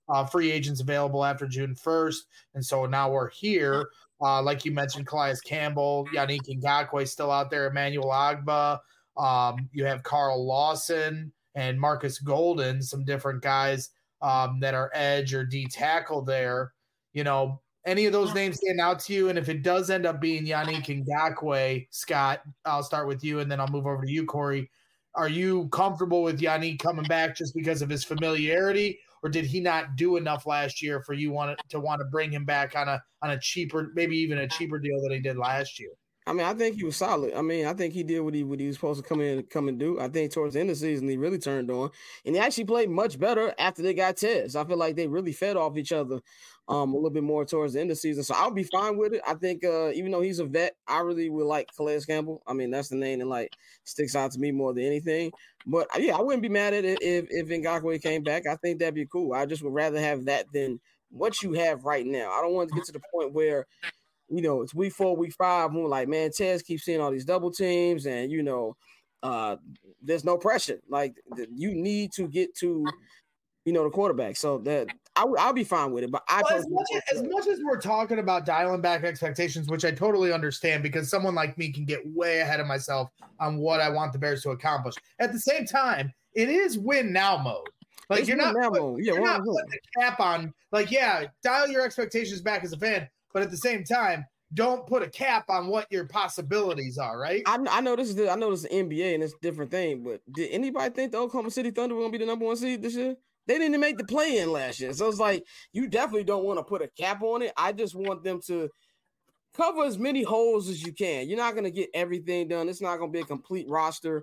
free agents available after June 1st. And so now we're here. Like you mentioned, Calais Campbell, Yannick Ngakoue still out there, Emmanuel Agba. You have Carl Lawson and Marcus Golden, some different guys that are edge or D tackle there. You know, any of those names stand out to you? And if it does end up being Yannick Ngakoue, Scott, I'll start with you and then I'll move over to you, Corey. Are you comfortable with Yannick coming back just because of his familiarity, or did he not do enough last year for you want to bring him back on a cheaper, maybe even a cheaper deal than he did last year? I mean, I think he was solid. I mean, I think he did what he was supposed to come and do. I think towards the end of the season, he really turned on. And he actually played much better after they got Tez. I feel like they really fed off each other a little bit more towards the end of the season. So I'll be fine with it. I think even though he's a vet, I really would like Calais Campbell. I mean, that's the name that like sticks out to me more than anything. But yeah, I wouldn't be mad at it if Ngakoue came back. I think that'd be cool. I just would rather have that than what you have right now. I don't want to get to the point where, you know, it's week 4, week 5, and we're like, man, Tez keeps seeing all these double teams, and, you know, there's no pressure. Like, you need to get to, you know, the quarterback. So that I'll be fine with it. But as much as we're talking about dialing back expectations, which I totally understand because someone like me can get way ahead of myself on what I want the Bears to accomplish. At the same time, it is win now mode. Like, it's you're not putting the cap on. Like, yeah, dial your expectations back as a fan. But at the same time, don't put a cap on what your possibilities are, right? I know this is the NBA and it's a different thing, but did anybody think the Oklahoma City Thunder were going to be the number 1 seed this year? They didn't make the play-in last year. So it's like, you definitely don't want to put a cap on it. I just want them to cover as many holes as you can. You're not going to get everything done. It's not going to be a complete roster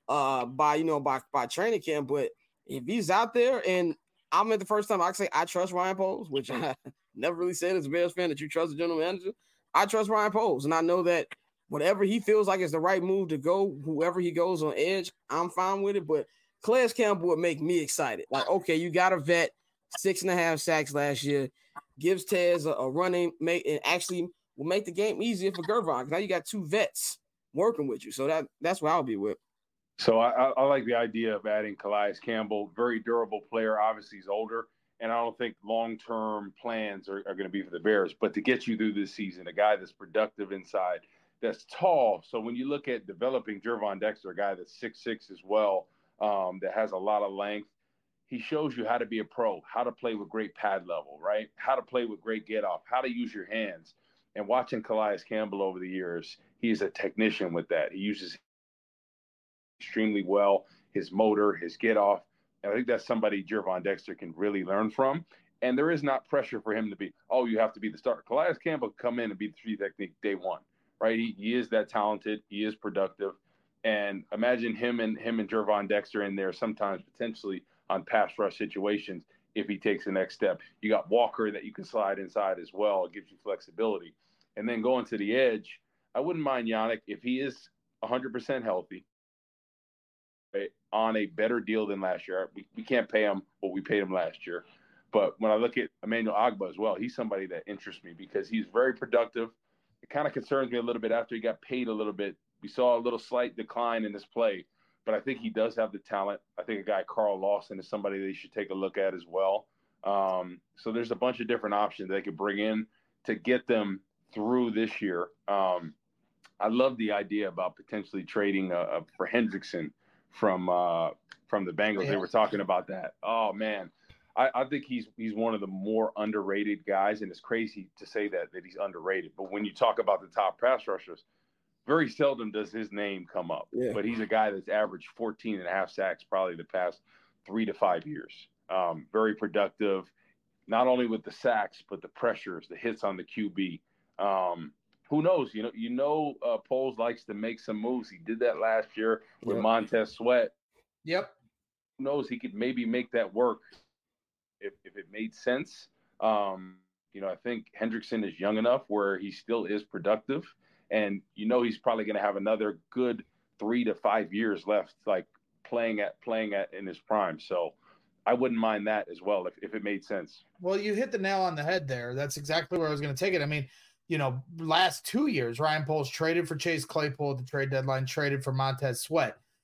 by training camp, but if he's out there, and I'm at the first time I can say I trust Ryan Poles, which I never really said as a Bears fan that you trust the general manager. I trust Ryan Poles, and I know that whatever he feels like is the right move to go, whoever he goes on edge, I'm fine with it. But Calais Campbell would make me excited. Like, okay, you got a vet, 6.5 sacks last year, gives Tez a running mate, and actually will make the game easier for Gervon. Now you got 2 vets working with you, so that's what I'll be with. So I like the idea of adding Calais Campbell, very durable player. Obviously, he's older, and I don't think long-term plans are going to be for the Bears. But to get you through this season, a guy that's productive inside, that's tall. So when you look at developing Gervon Dexter, a guy that's 6'6" as well, that has a lot of length, he shows you how to be a pro, how to play with great pad level, right? How to play with great get-off, how to use your hands. And watching Calais Campbell over the years, he's a technician with that. He uses extremely well, his motor, his get off. And I think that's somebody Gervon Dexter can really learn from. And there is not pressure for him to be, oh, you have to be the starter. Calais Campbell can come in and be the 3 technique day one, right? He is that talented. He is productive. And imagine him and Gervon Dexter in there sometimes potentially on pass rush situations if he takes the next step. You got Walker that you can slide inside as well. It gives you flexibility. And then going to the edge, I wouldn't mind Yannick if he is 100% healthy, on a better deal than last year. We can't pay him what we paid him last year. But when I look at Emmanuel Agba as well, he's somebody that interests me because he's very productive. It kind of concerns me a little bit after he got paid a little bit. We saw a little slight decline in his play, but I think he does have the talent. I think a guy, Carl Lawson, is somebody they should take a look at as well. So there's a bunch of different options they could bring in to get them through this year. I love the idea about potentially trading for Hendrickson from the Bengals. They were talking about that. Oh man, I think he's one of the more underrated guys, and it's crazy to say that he's underrated. But when you talk about the top pass rushers, very seldom does his name come up. Yeah. But he's a guy that's averaged 14.5 sacks probably the past 3 to 5 years. Very productive, not only with the sacks but the pressures, the hits on the QB. Who knows? Poles likes to make some moves. He did that last year with Montez Sweat. Yep. Who knows? He could maybe make that work if it made sense. I think Hendrickson is young enough where he still is productive, and he's probably going to have another good 3 to 5 years left, like playing at in his prime. So I wouldn't mind that as well if it made sense. Well, you hit the nail on the head there. That's exactly where I was going to take it. I mean, last 2 years, Ryan Poles traded for Chase Claypool at the trade deadline, traded for Montez Sweat.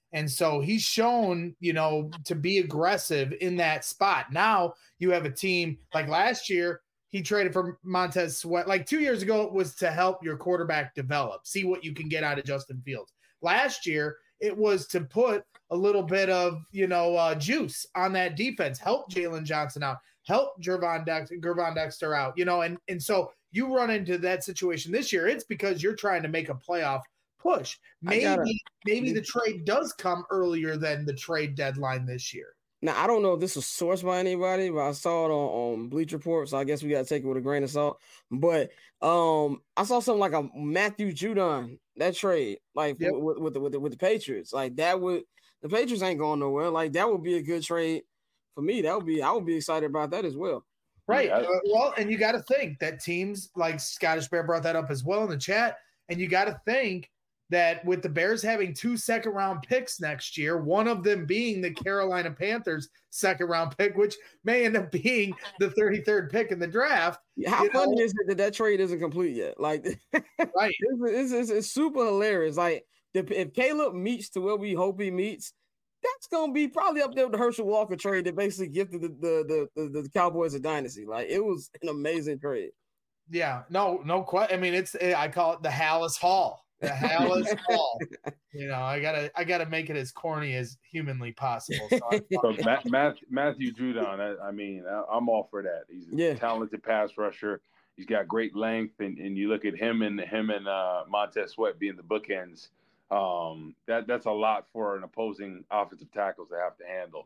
And so he's shown, to be aggressive in that spot. Now you have a team like last year, he traded for Montez Sweat. Like 2 years ago, it was to help your quarterback develop, see what you can get out of Justin Fields. Last year, it was to put a little bit of, juice on that defense, help Jalen Johnson out, help Gervon Dexter out, and so you run into that situation this year. It's because you're trying to make a playoff push. Maybe the trade does come earlier than the trade deadline this year. Now, I don't know if this was sourced by anybody, but I saw it on Bleacher Report, so I guess we got to take it with a grain of salt. But I saw something like a Matthew Judon, that trade, like with the Patriots. Like the Patriots ain't going nowhere. Like that would be a good trade for me. I would be excited about that as well. Right. Yeah. And you got to think that teams like Scottish Bear brought that up as well in the chat, and you got to think that with the Bears having 2 second-round picks next year, one of them being the Carolina Panthers second-round pick, which may end up being the 33rd pick in the draft. How funny is it that trade isn't complete yet? Like, right? It's super hilarious. Like, if Caleb meets to where we hope he meets, that's gonna be probably up there with the Herschel Walker trade that basically gifted the Cowboys a dynasty. Like, it was an amazing trade. Yeah, no question. I mean, I call it the Hallis Hall. The Hallis Hall. I gotta make it as corny as humanly possible. So Matthew Judon, I'm all for that. He's a talented pass rusher. He's got great length, and you look at him and Montez Sweat being the bookends. That's a lot for an opposing offensive tackles to have to handle.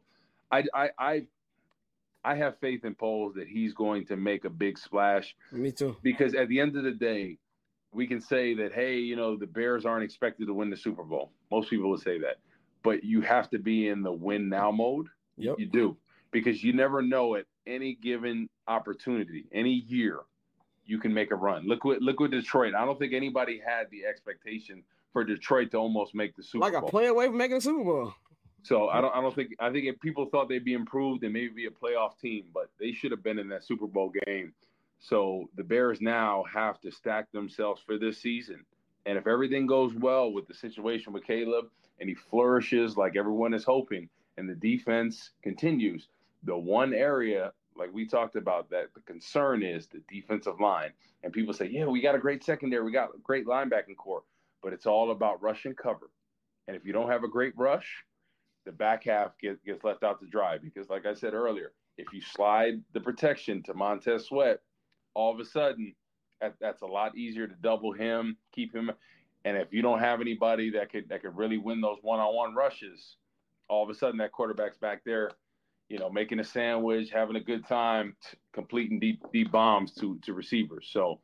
I have faith in Poles that he's going to make a big splash. Me too. Because at the end of the day, we can say that, hey, the Bears aren't expected to win the Super Bowl. Most people would say that. But you have to be in the win now mode. Yep. You do. Because you never know at any given opportunity, any year, you can make a run. Look with Detroit. I don't think anybody had the expectation for Detroit to almost make the Super Bowl. Like a play away from making the Super Bowl. So I think if people thought they'd be improved and maybe be a playoff team, but they should have been in that Super Bowl game. So the Bears now have to stack themselves for this season. And if everything goes well with the situation with Caleb and he flourishes like everyone is hoping and the defense continues, the one area, like we talked about, that the concern is the defensive line. And people say, yeah, we got a great secondary. We got a great linebacking core. But it's all about rush and cover. And if you don't have a great rush, the back half gets left out to dry. Because like I said earlier, if you slide the protection to Montez Sweat, all of a sudden, that's a lot easier to double him, keep him. And if you don't have anybody that could really win those one-on-one rushes, all of a sudden that quarterback's back there, making a sandwich, having a good time, completing deep bombs to receivers. So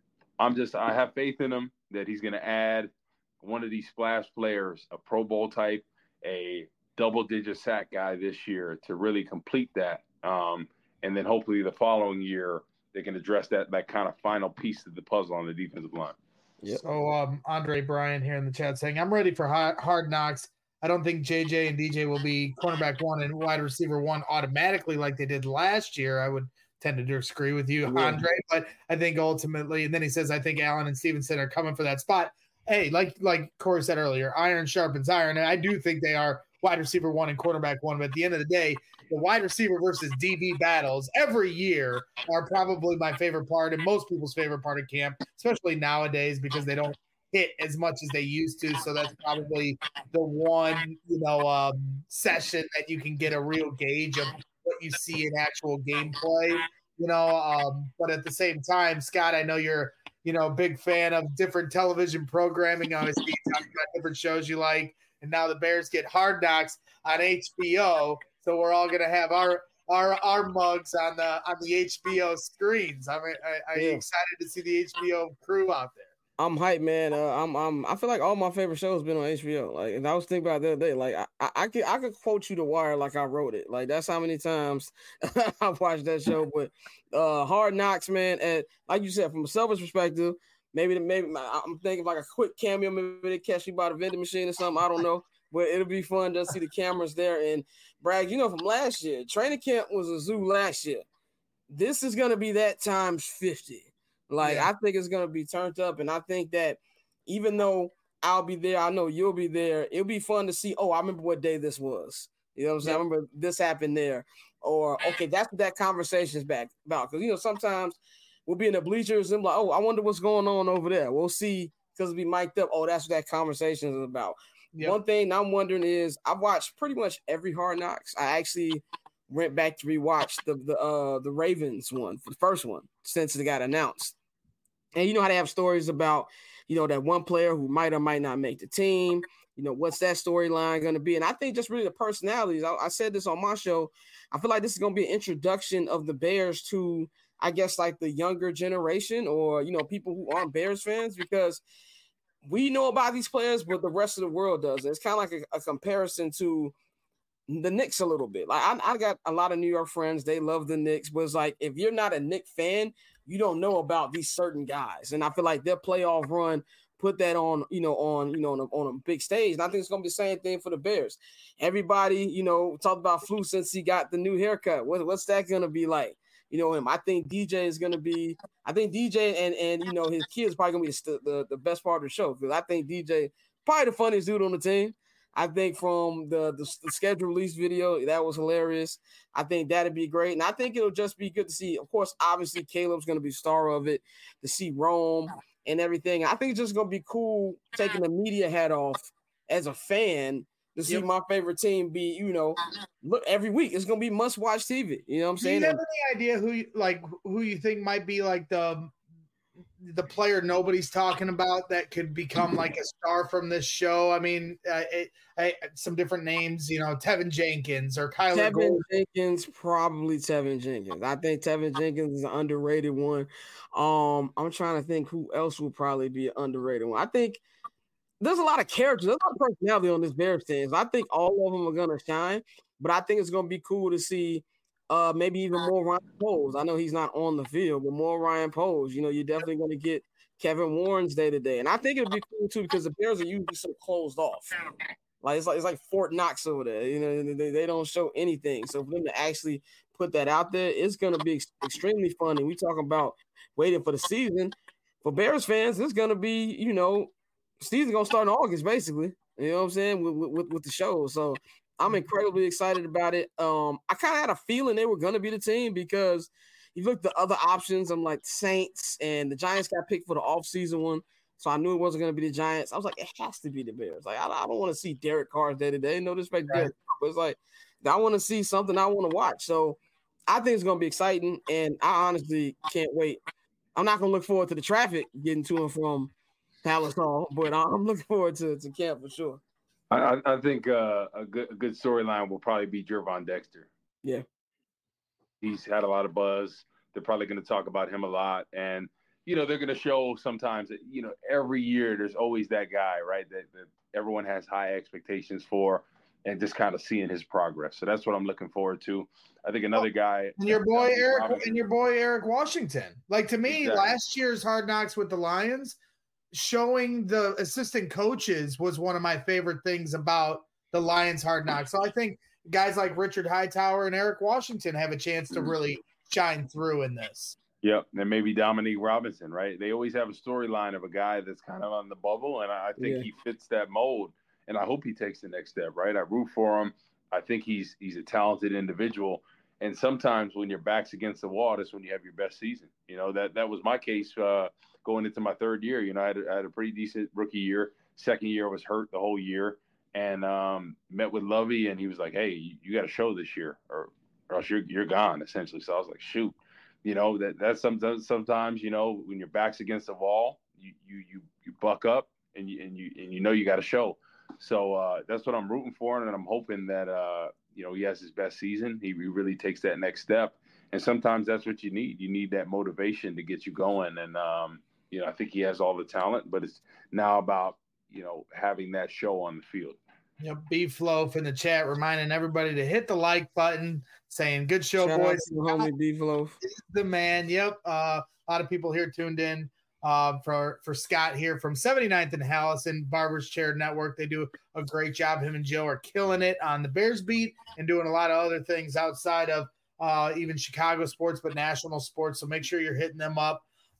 I have faith in him that he's going to add one of these splash players, a Pro Bowl type, a double-digit sack guy this year to really complete that. And then hopefully the following year, they can address that kind of final piece of the puzzle on the defensive line. Yep. So Andre Bryan here in the chat saying, I'm ready for hard knocks. I don't think JJ and DJ will be cornerback 1 and wide receiver 1 automatically like they did last year. I would tend to disagree with you, Andre, but I think ultimately, and then he says, I think Allen and Stevenson are coming for that spot. Hey, like Corey said earlier, iron sharpens iron. And I do think they are wide receiver 1 and quarterback 1. But at the end of the day, the wide receiver versus DB battles every year are probably my favorite part and most people's favorite part of camp, especially nowadays because they don't hit as much as they used to. So that's probably the one, session that you can get a real gauge of what you see in actual gameplay, but at the same time, Scott, I know you're, a big fan of different television programming. Obviously, you talk about different shows you like, and now the Bears get Hard Knocks on HBO. So we're all going to have our mugs on the HBO screens. I'm excited to see the HBO crew out there. I'm hyped, man. I feel like all my favorite shows been on HBO. Like, and I was thinking about it the other day. Like, I could quote you The Wire like I wrote it. Like, that's how many times I've watched that show. But Hard Knocks, man. And like you said, from a selfish perspective, maybe I'm thinking like a quick cameo. Maybe they catch you by the vending machine or something. I don't know. But it'll be fun to see the cameras there. And Bragg, from last year, training camp was a zoo last year. This is going to be that times 50. I think it's going to be turned up. And I think that even though I'll be there. I know you'll be there. It'll be fun to see. Oh, I remember what day this was. You know what I'm saying? I remember this happened there. Or, okay, that's what that conversation is back about. Because, sometimes we'll be in the bleachers and like, oh, I wonder what's going on over there. We'll see because we'll be mic'd up. Oh, that's what that conversation is about. Yep. One thing I'm wondering is I've watched pretty much every Hard Knocks. I actually went back to rewatch the Ravens one, the first one, since it got announced. And you know how they have stories about, that one player who might or might not make the team. What's that storyline going to be? And I think just really the personalities. I said this on my show. I feel like this is going to be an introduction of the Bears to, I guess, like the younger generation or, people who aren't Bears fans, because we know about these players, but the rest of the world does. It's kind of like a comparison to the Knicks a little bit. Like I got a lot of New York friends. They love the Knicks, but it's like, if you're not a Knicks fan, you don't know about these certain guys. And I feel like their playoff run put that on a big stage. And I think it's going to be the same thing for the Bears. Everybody, talked about Flu since he got the new haircut. What's that going to be like? Him. I think DJ is going to be – I think DJ and his kids probably going to be the best part of the show, because I think DJ probably the funniest dude on the team. I think from the schedule release video, that was hilarious. I think that'd be great. And I think it'll just be good to see. Of course, obviously, Caleb's going to be star of it, to see Rome and everything. I think it's just going to be cool taking the media hat off as a fan to see my favorite team be, look, every week. It's going to be must-watch TV. You know what I'm saying? Do you have any idea who you think might be like the player nobody's talking about that could become like a star from this show? I mean, some different names, Tevin Jenkins or Kyler Gordon. Probably Tevin Jenkins. I think Tevin Jenkins is an underrated one. I'm trying to think who else would probably be an underrated one. I think there's a lot of characters. There's a lot of personality on this Bears team. I think all of them are going to shine, but I think it's going to be cool to see maybe even more Ryan Poles. I know he's not on the field, but more Ryan Poles. You're definitely going to get Kevin Warren's day-to-day. And I think it'll be cool, too, because the Bears are usually so closed off. It's like Fort Knox over there. They don't show anything. So for them to actually put that out there, it's going to be extremely fun. And we talking about waiting for the season. For Bears fans, it's going to be, season going to start in August, basically. You know what I'm saying, with the show. So I'm incredibly excited about it. I kind of had a feeling they were going to be the team, because you look at the other options. I'm like Saints, and the Giants got picked for the offseason one. So I knew it wasn't going to be the Giants. I was like, it has to be the Bears. Like, I don't want to see Derek Carr's day-to-day. No disrespect to Derek Carr, but it's like, I want to see something I want to watch. So I think it's going to be exciting, and I honestly can't wait. I'm not going to look forward to the traffic getting to and from Palace Hall, but I'm looking forward to camp for sure. I think a good storyline will probably be Gervon Dexter. Yeah. He's had a lot of buzz. They're probably going to talk about him a lot. And, they're going to show sometimes that, every year there's always that guy, right, that everyone has high expectations for, and just kind of seeing his progress. So that's what I'm looking forward to. I think another guy. And your boy Eric Washington. Like, to me, exactly. Last year's Hard Knocks with the Lions, showing the assistant coaches was one of my favorite things about the Lions Hard Knocks. So I think guys like Richard Hightower and Eric Washington have a chance to really shine through in this. Yep, and maybe Dominique Robinson, right? They always have a storyline of a guy that's kind of on the bubble, and I think he fits that mold, and I hope he takes the next step, right? I root for him. I think he's a talented individual, and sometimes when your back's against the wall, that's when you have your best season. That was my case going into my third year. I had a pretty decent rookie year. Second year I was hurt the whole year, and met with Lovey, and he was like, "Hey, you got to show this year, or else you're gone," essentially. So I was like, "Shoot." That's sometimes when your back's against the wall, you buck up and you got to show. So that's what I'm rooting for, and I'm hoping that he has his best season. He really takes that next step, and sometimes that's what you need. You need that motivation to get you going, and I think he has all the talent, but it's now about having that show on the field. Beef Loaf in the chat reminding everybody to hit the like button, saying good show, shout boys. Homie Beef Loaf, the man. Yep. A lot of people here tuned in for Scott here from 79th and Hallison Barber's Chair Network. They do a great job. Him and Joe are killing it on the Bears beat and doing a lot of other things outside of even Chicago sports, but national sports. So make sure you're hitting them up.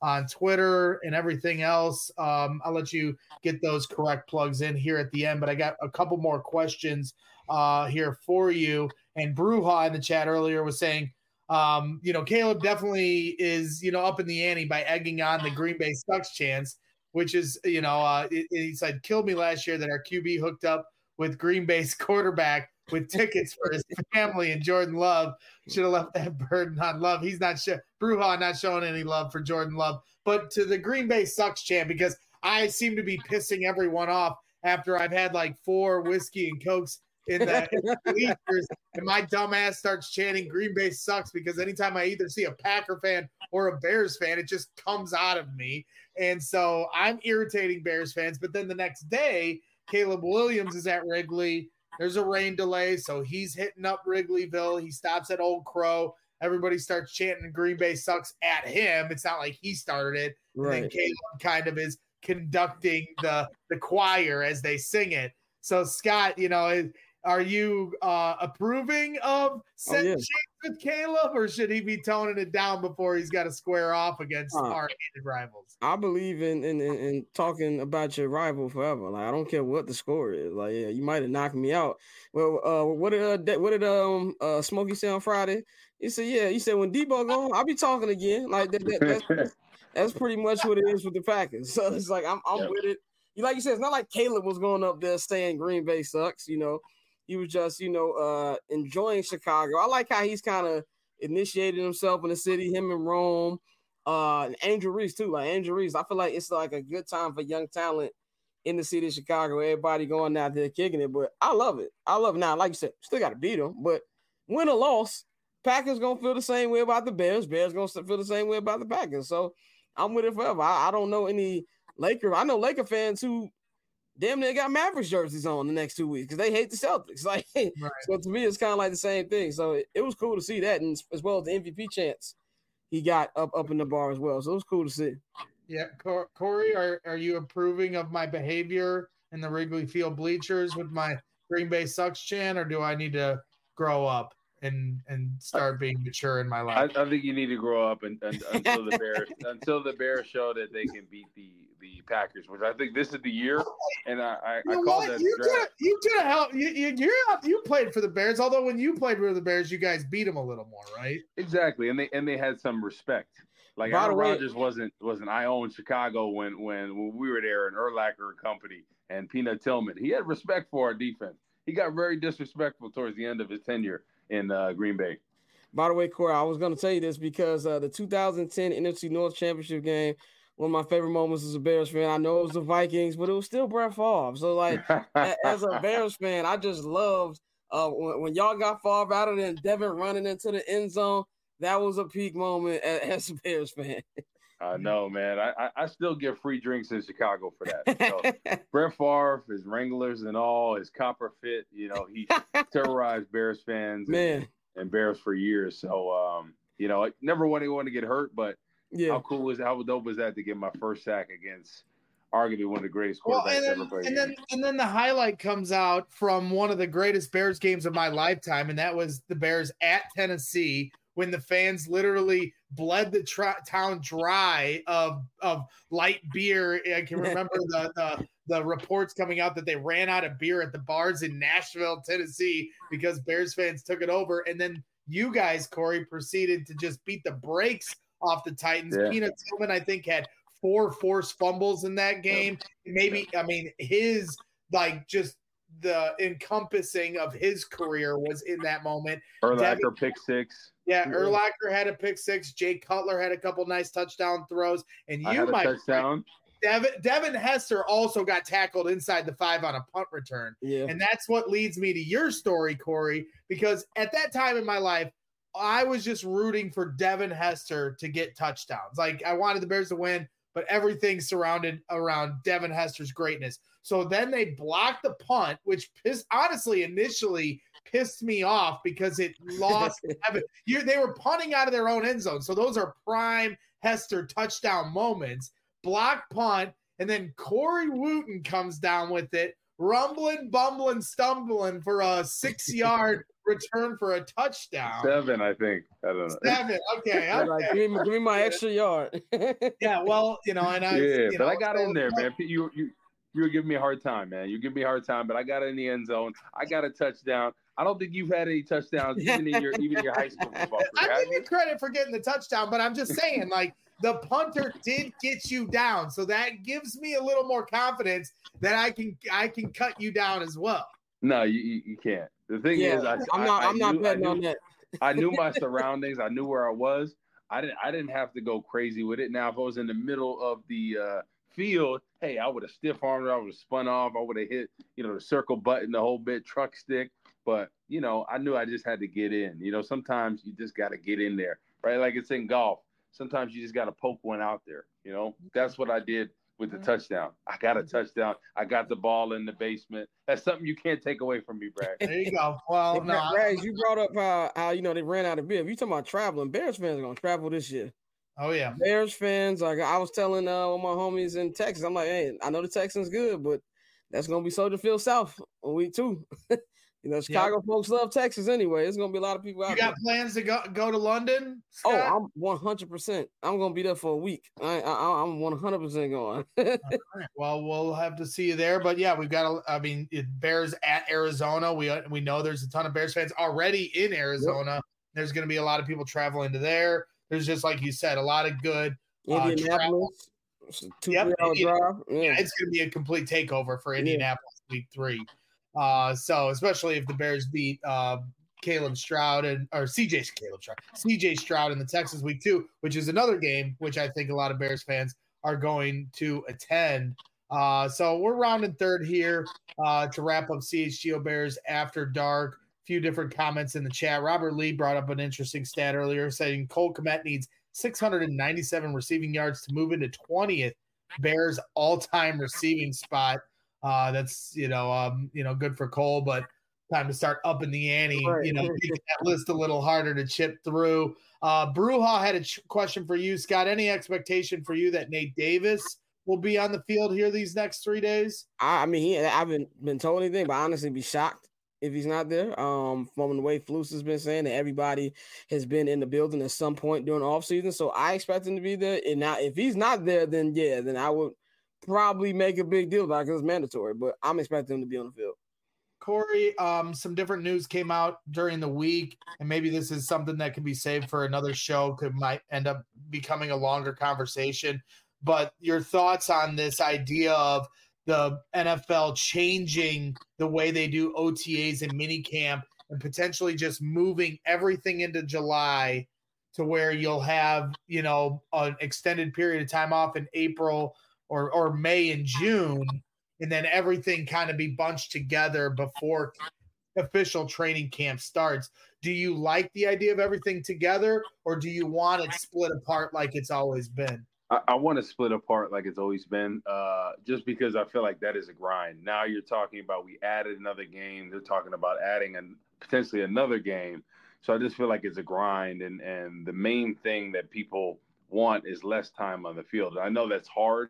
on Twitter and everything else. I'll let you get those correct plugs in here at the end, but I got a couple more questions here for you. And Bruja in the chat earlier was saying, Caleb definitely is, up in the ante by egging on the Green Bay Sucks chance, which is, he said, killed me last year that our QB hooked up with Green Bay's quarterback with tickets for his family, and Jordan Love should have left that burden on Love. He's not Bruja not showing any love for Jordan Love, but to the Green Bay Sucks chant, because I seem to be pissing everyone off after I've had like 4 whiskey and Cokes in the bleachers, and my dumb ass starts chanting Green Bay Sucks, because anytime I either see a Packer fan or a Bears fan, it just comes out of me. And so I'm irritating Bears fans. But then the next day, Caleb Williams is at Wrigley. There's a rain delay, so he's hitting up Wrigleyville. He stops at Old Crow. Everybody starts chanting Green Bay Sucks at him. It's not like he started it. Right. And then Caleb kind of is conducting the choir as they sing it. So, Scott, are you approving of setting chance with Caleb, or should he be toning it down before he's got to square off against our hated rivals? I believe in talking about your rival forever. Like, I don't care what the score is. Like, yeah, you might have knocked me out. Well, what did Smokey say on Friday? He said, yeah. He said, when Debo gone, I'll be talking again. Like that's pretty much what it is with the Packers. So it's like I'm with it. Like you said, it's not like Caleb was going up there saying Green Bay sucks. He was just, enjoying Chicago. I like how he's kind of initiated himself in the city, him and Rome, and Angel Reese too. Like Angel Reese, I feel like it's like a good time for young talent in the city of Chicago. Everybody going out there kicking it, but I love it. Now, like you said, still got to beat them, but win or loss, Packers gonna feel the same way about the Bears. Bears gonna feel the same way about the Packers. So I'm with it forever. I don't know any Laker. I know Laker fans who damn near got Mavericks jerseys on the next 2 weeks because they hate the Celtics. Like, right. So to me, it's kind of like the same thing. So it was cool to see that, and as well as the MVP chance he got up in the bar as well. So it was cool to see. Yeah, Corey, are you approving of my behavior in the Wrigley Field bleachers with my Green Bay Sucks chant, or do I need to grow up and start being mature in my life? I think you need to grow up until the Bears show that they can beat the Packers, which I think this is the year. And I call that. You could have helped. You played for the Bears, although when you played for the Bears, you guys beat them a little more, right? Exactly, and they had some respect. Like Aaron Rodgers wasn't I own Chicago when we were there, and Urlacher and company and Peanut Tillman. He had respect for our defense. He got very disrespectful towards the end of his tenure in Green Bay. By the way, Corey, I was going to tell you this because the 2010 NFC North Championship game, one of my favorite moments as a Bears fan. I know it was the Vikings, but it was still Brett Favre. So, like, as a Bears fan, I just loved when y'all got Favre out of there and Devin running into the end zone. That was a peak moment as a Bears fan. I know, man. I still get free drinks in Chicago for that. So, Brett Favre, his Wranglers and all, his copper fit, he terrorized Bears fans and Bears for years. So, I never want anyone to get hurt, but how dope was that to get my first sack against arguably one of the greatest quarterbacks ever played? And then the highlight comes out from one of the greatest Bears games of my lifetime, and that was the Bears at Tennessee, when the fans literally bled the town dry of light beer. I can remember the reports coming out that they ran out of beer at the bars in Nashville, Tennessee, because Bears fans took it over. And then you guys, Corey, proceeded to just beat the brakes off the Titans. Yeah. Peanut Tillman, I think, had 4 forced fumbles in that game. His just the encompassing of his career was in that moment. Urlacher pick 6. Yeah, Urlacher had a pick 6. Jay Cutler had a couple nice touchdown throws, and touchdown. Devin Hester also got tackled inside the 5 on a punt return. Yeah, and that's what leads me to your story, Corey, because at that time in my life, I was just rooting for Devin Hester to get touchdowns. Like, I wanted the Bears to win, but everything surrounded around Devin Hester's greatness. So then they blocked the punt, which initially pissed me off because it lost. They were punting out of their own end zone. So those are prime Hester touchdown moments. Block punt, and then Corey Wooten comes down with it rumbling, bumbling, stumbling for a 6-yard return for a touchdown. 7, I think. I don't know. 7. Okay. Like, give me my extra yard. Yeah, well, and I got in there, man. You were giving me a hard time, man. You give me a hard time, but I got in the end zone. I got a touchdown. I don't think you've had any touchdowns even in your high school football career. I give you credit for getting the touchdown, but I'm just saying, like, the punter did get you down, so that gives me a little more confidence that I can cut you down as well. No, you can't. The thing is, I'm not betting on that. I knew my surroundings. I knew where I was. I didn't have to go crazy with it. Now, if I was in the middle of the field, hey, I would have stiff armed it. I would have spun off. I would have hit, the circle button, the whole bit, truck stick. But, I knew I just had to get in. Sometimes you just got to get in there, right? Like it's in golf. Sometimes you just got to poke one out there. That's what I did with the touchdown. I got a touchdown. I got the ball in the basement. That's something you can't take away from me, Brad. There you go. Well, Brad, you brought up how they ran out of beer. If you talking about traveling, Bears fans are going to travel this year. Oh, yeah. Bears fans, like I was telling one of my homies in Texas, I'm like, hey, I know the Texans good, but that's going to be Soldier Field South on week 2. Chicago folks love Texas anyway. There's going to be a lot of people out there. You got plans to go to London, Scott? Oh, I'm 100%. I'm going to be there for a week. I'm 100% going. Right. Well, we'll have to see you there. But, yeah, we've got Bears at Arizona. We know there's a ton of Bears fans already in Arizona. Yep. There's going to be a lot of people traveling to there. There's just, like you said, a lot of good Indianapolis. 2-3 hour drive. Yeah, it's going to be a complete takeover for Indianapolis week 3. So especially if the Bears beat CJ Stroud and the Texans week 2, which is another game which I think a lot of Bears fans are going to attend. So we're rounding third here to wrap up CHGO Bears After Dark. A few different comments in the chat. Robert Lee brought up an interesting stat earlier, saying Cole Kmet needs 697 receiving yards to move into 20th Bears all-time receiving spot. That's good for Cole, but time to start upping the ante. Right. Making that list a little harder to chip through. Bruja had a question for you, Scott. Any expectation for you that Nate Davis will be on the field here these next 3 days? I haven't been told anything, but honestly, be shocked if he's not there. From the way Flus has been saying that everybody has been in the building at some point during the offseason, so I expect him to be there. And now, if he's not there, then I would probably make a big deal about it because it's mandatory, but I'm expecting him to be on the field. Corey, some different news came out during the week, and maybe this is something that can be saved for another show, might end up becoming a longer conversation. But your thoughts on this idea of the NFL changing the way they do OTAs and minicamp and potentially just moving everything into July to where you'll have, an extended period of time off in April or May and June, and then everything kind of be bunched together before official training camp starts. Do you like the idea of everything together, or do you want it split apart like it's always been? I want to split apart like it's always been, just because I feel like that is a grind. Now you're talking about we added another game. They're talking about adding potentially another game. So I just feel like it's a grind, and the main thing that people want is less time on the field. I know that's hard.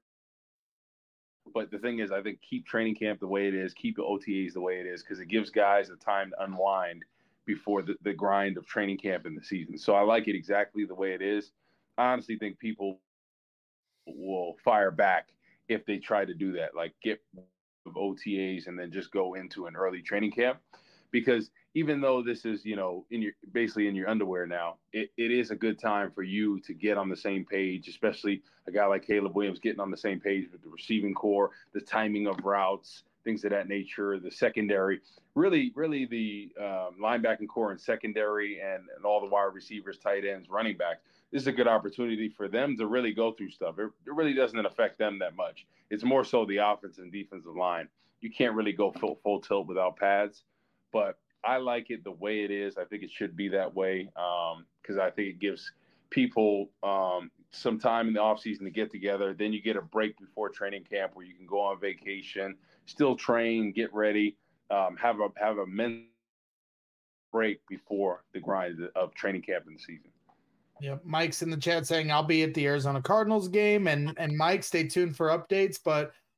But the thing is, I think keep training camp the way it is, keep the OTAs the way it is, because it gives guys the time to unwind before the grind of training camp in the season. So I like it exactly the way it is. I honestly think people will fire back if they try to do that, like get OTAs and then just go into an early training camp. Because even though this is, basically in your underwear now, it is a good time for you to get on the same page, especially a guy like Caleb Williams getting on the same page with the receiving core, the timing of routes, things of that nature, the secondary, really the linebacking core and secondary and all the wide receivers, tight ends, running backs. This is a good opportunity for them to really go through stuff. It really doesn't affect them that much. It's more so the offense and defensive line. You can't really go full tilt without pads. But I like it the way it is. I think it should be that way because I think it gives people some time in the offseason to get together. Then you get a break before training camp where you can go on vacation, still train, get ready, have a mental break before the grind of training camp in the season. Yeah, Mike's in the chat saying I'll be at the Arizona Cardinals game, and Mike, stay tuned for updates. But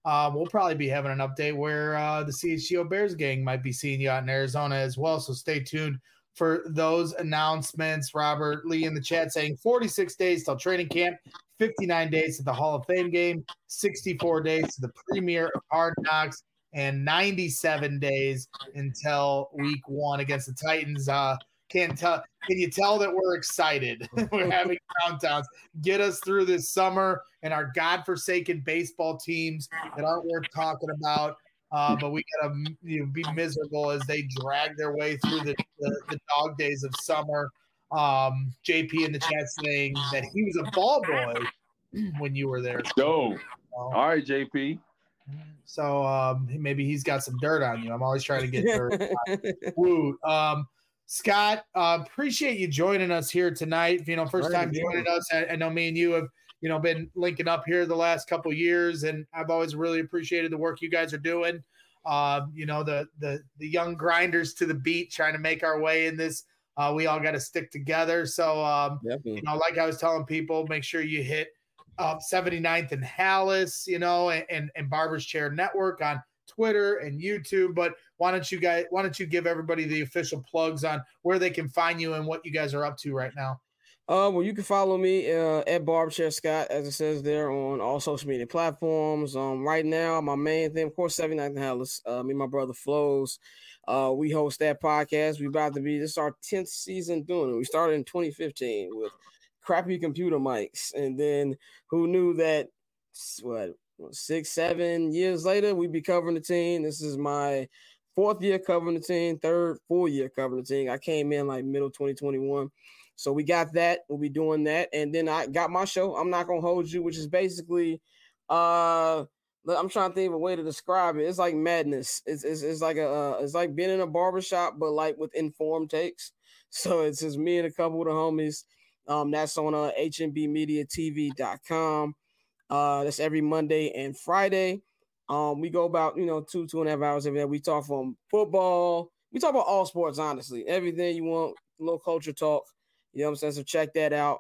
we'll probably be having an update where the CHGO Bears gang might be seeing you out in Arizona as well. So stay tuned for those announcements. Robert Lee in the chat saying 46 days till training camp, 59 days to the Hall of Fame game, 64 days to the premiere of Hard Knocks, and 97 days until week 1 against the Titans. Can you tell that we're excited? We're having countdowns. Get us through this summer and our godforsaken baseball teams that aren't worth talking about. But we gotta be miserable as they drag their way through the dog days of summer. JP in the chat saying that he was a ball boy when you were there. All right, JP. So maybe he's got some dirt on you. I'm always trying to get dirt. Woo. Scott, appreciate you joining us here tonight. First time joining us. I know me and you have been linking up here the last couple of years, and I've always really appreciated the work you guys are doing. The young grinders to the beat, trying to make our way in this. We all got to stick together. So, like I was telling people, make sure you hit 79th and Hallis, and Barber's Chair Network on Twitter and YouTube. But why don't you give everybody the official plugs on where they can find you and what you guys are up to right now? Well, you can follow me at Barberchair Scott, as it says there, on all social media platforms. Right now, my main thing, of course, 79th and Hallis. Me and my brother Flows. We host that podcast. This is our 10th season doing it. We started in 2015 with crappy computer mics, and then who knew that 6-7 years later we'd be covering the team. This is my 4th year covering the team, 3rd full year covering the team. I came in like middle 2021. So we got that. We'll be doing that. And then I got my show, I'm Not Gonna Hold You, which is basically I'm trying to think of a way to describe it. It's like madness. It's like being in a barbershop, but like with informed takes. So it's just me and a couple of the homies. That's on hmbmediatv.com. That's every Monday and Friday. We go about 2.5 hours every day. We talk from football. We talk about all sports, honestly. Everything you want, a little culture talk. You know what I'm saying? So check that out.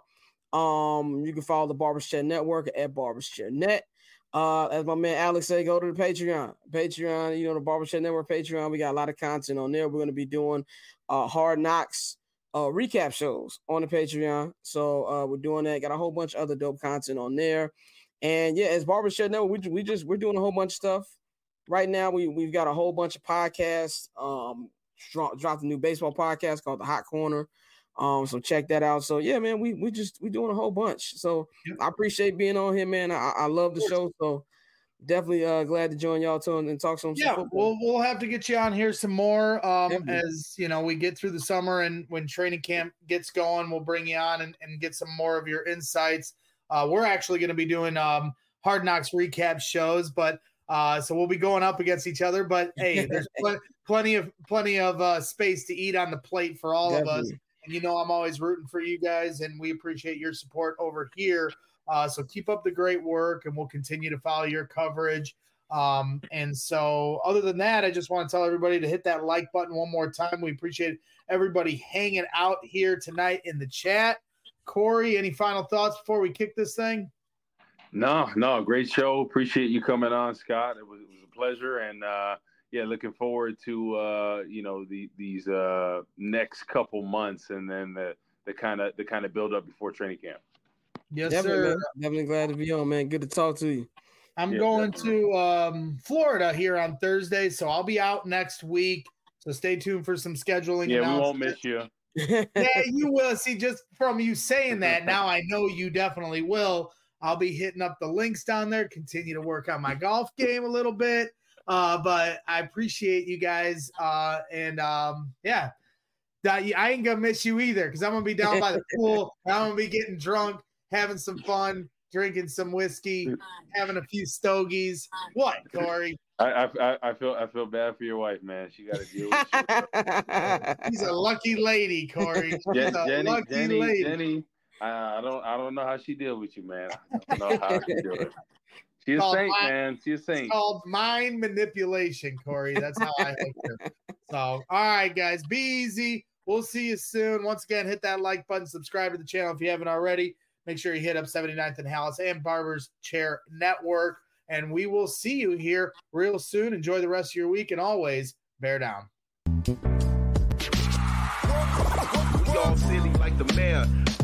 You can follow the Barber's Chair Network at Barber's Chair Net. As my man Alex said, go to the Patreon. The Barber's Chair Network Patreon. We got a lot of content on there. We're going to be doing Hard Knocks recap shows on the Patreon. So we're doing that. Got a whole bunch of other dope content on there. And yeah, as Barber's Chair Network, we're doing a whole bunch of stuff. Right now, we've got a whole bunch of podcasts. Dropped a new baseball podcast called The Hot Corner. So check that out. So yeah, man, we doing a whole bunch. So I appreciate being on here, man. I love the show. So definitely glad to join y'all too and talk some. Yeah, we'll have to get you on here some more as we get through the summer, and when training camp gets going, we'll bring you on and get some more of your insights. We're actually going to be doing Hard Knocks recap shows, but so we'll be going up against each other. But hey, there's plenty of space to eat on the plate for all of us. And I'm always rooting for you guys, and we appreciate your support over here. So keep up the great work, and we'll continue to follow your coverage. And so other than that, I just want to tell everybody to hit that like button one more time. We appreciate everybody hanging out here tonight in the chat. Corey, any final thoughts before we kick this thing? No, great show. Appreciate you coming on, Scott. It was a pleasure, and looking forward to these next couple months, and then the kind of build up before training camp. Yes, definitely, sir. Man. Definitely glad to be on, man. Good to talk to you. I'm going to Florida here on Thursday, so I'll be out next week. So stay tuned for some scheduling. Yeah, we won't miss you. Yeah, you will. See, just from you saying that, now I know you definitely will. I'll be hitting up the links down there, continue to work on my golf game a little bit. But I appreciate you guys. I ain't gonna miss you either, because I'm gonna be down by the pool. I'm gonna be getting drunk, having some fun, drinking some whiskey, having a few stogies. What, Corey? I feel bad for your wife, man. She got to deal with you. She's a lucky lady, Corey. Jenny. I don't know how she deals with you, man. I don't know how she deals with it. She's a saint, man. She's a saint. It's called mind manipulation, Corey. That's how I hook her. So, all right, guys, be easy. We'll see you soon. Once again, hit that like button, subscribe to the channel if you haven't already. Make sure you hit up 79th and Hallis and Barber's Chair Network. and we will see you here real soon. Enjoy the rest of your week, and always bear down. We all silly like the mayor.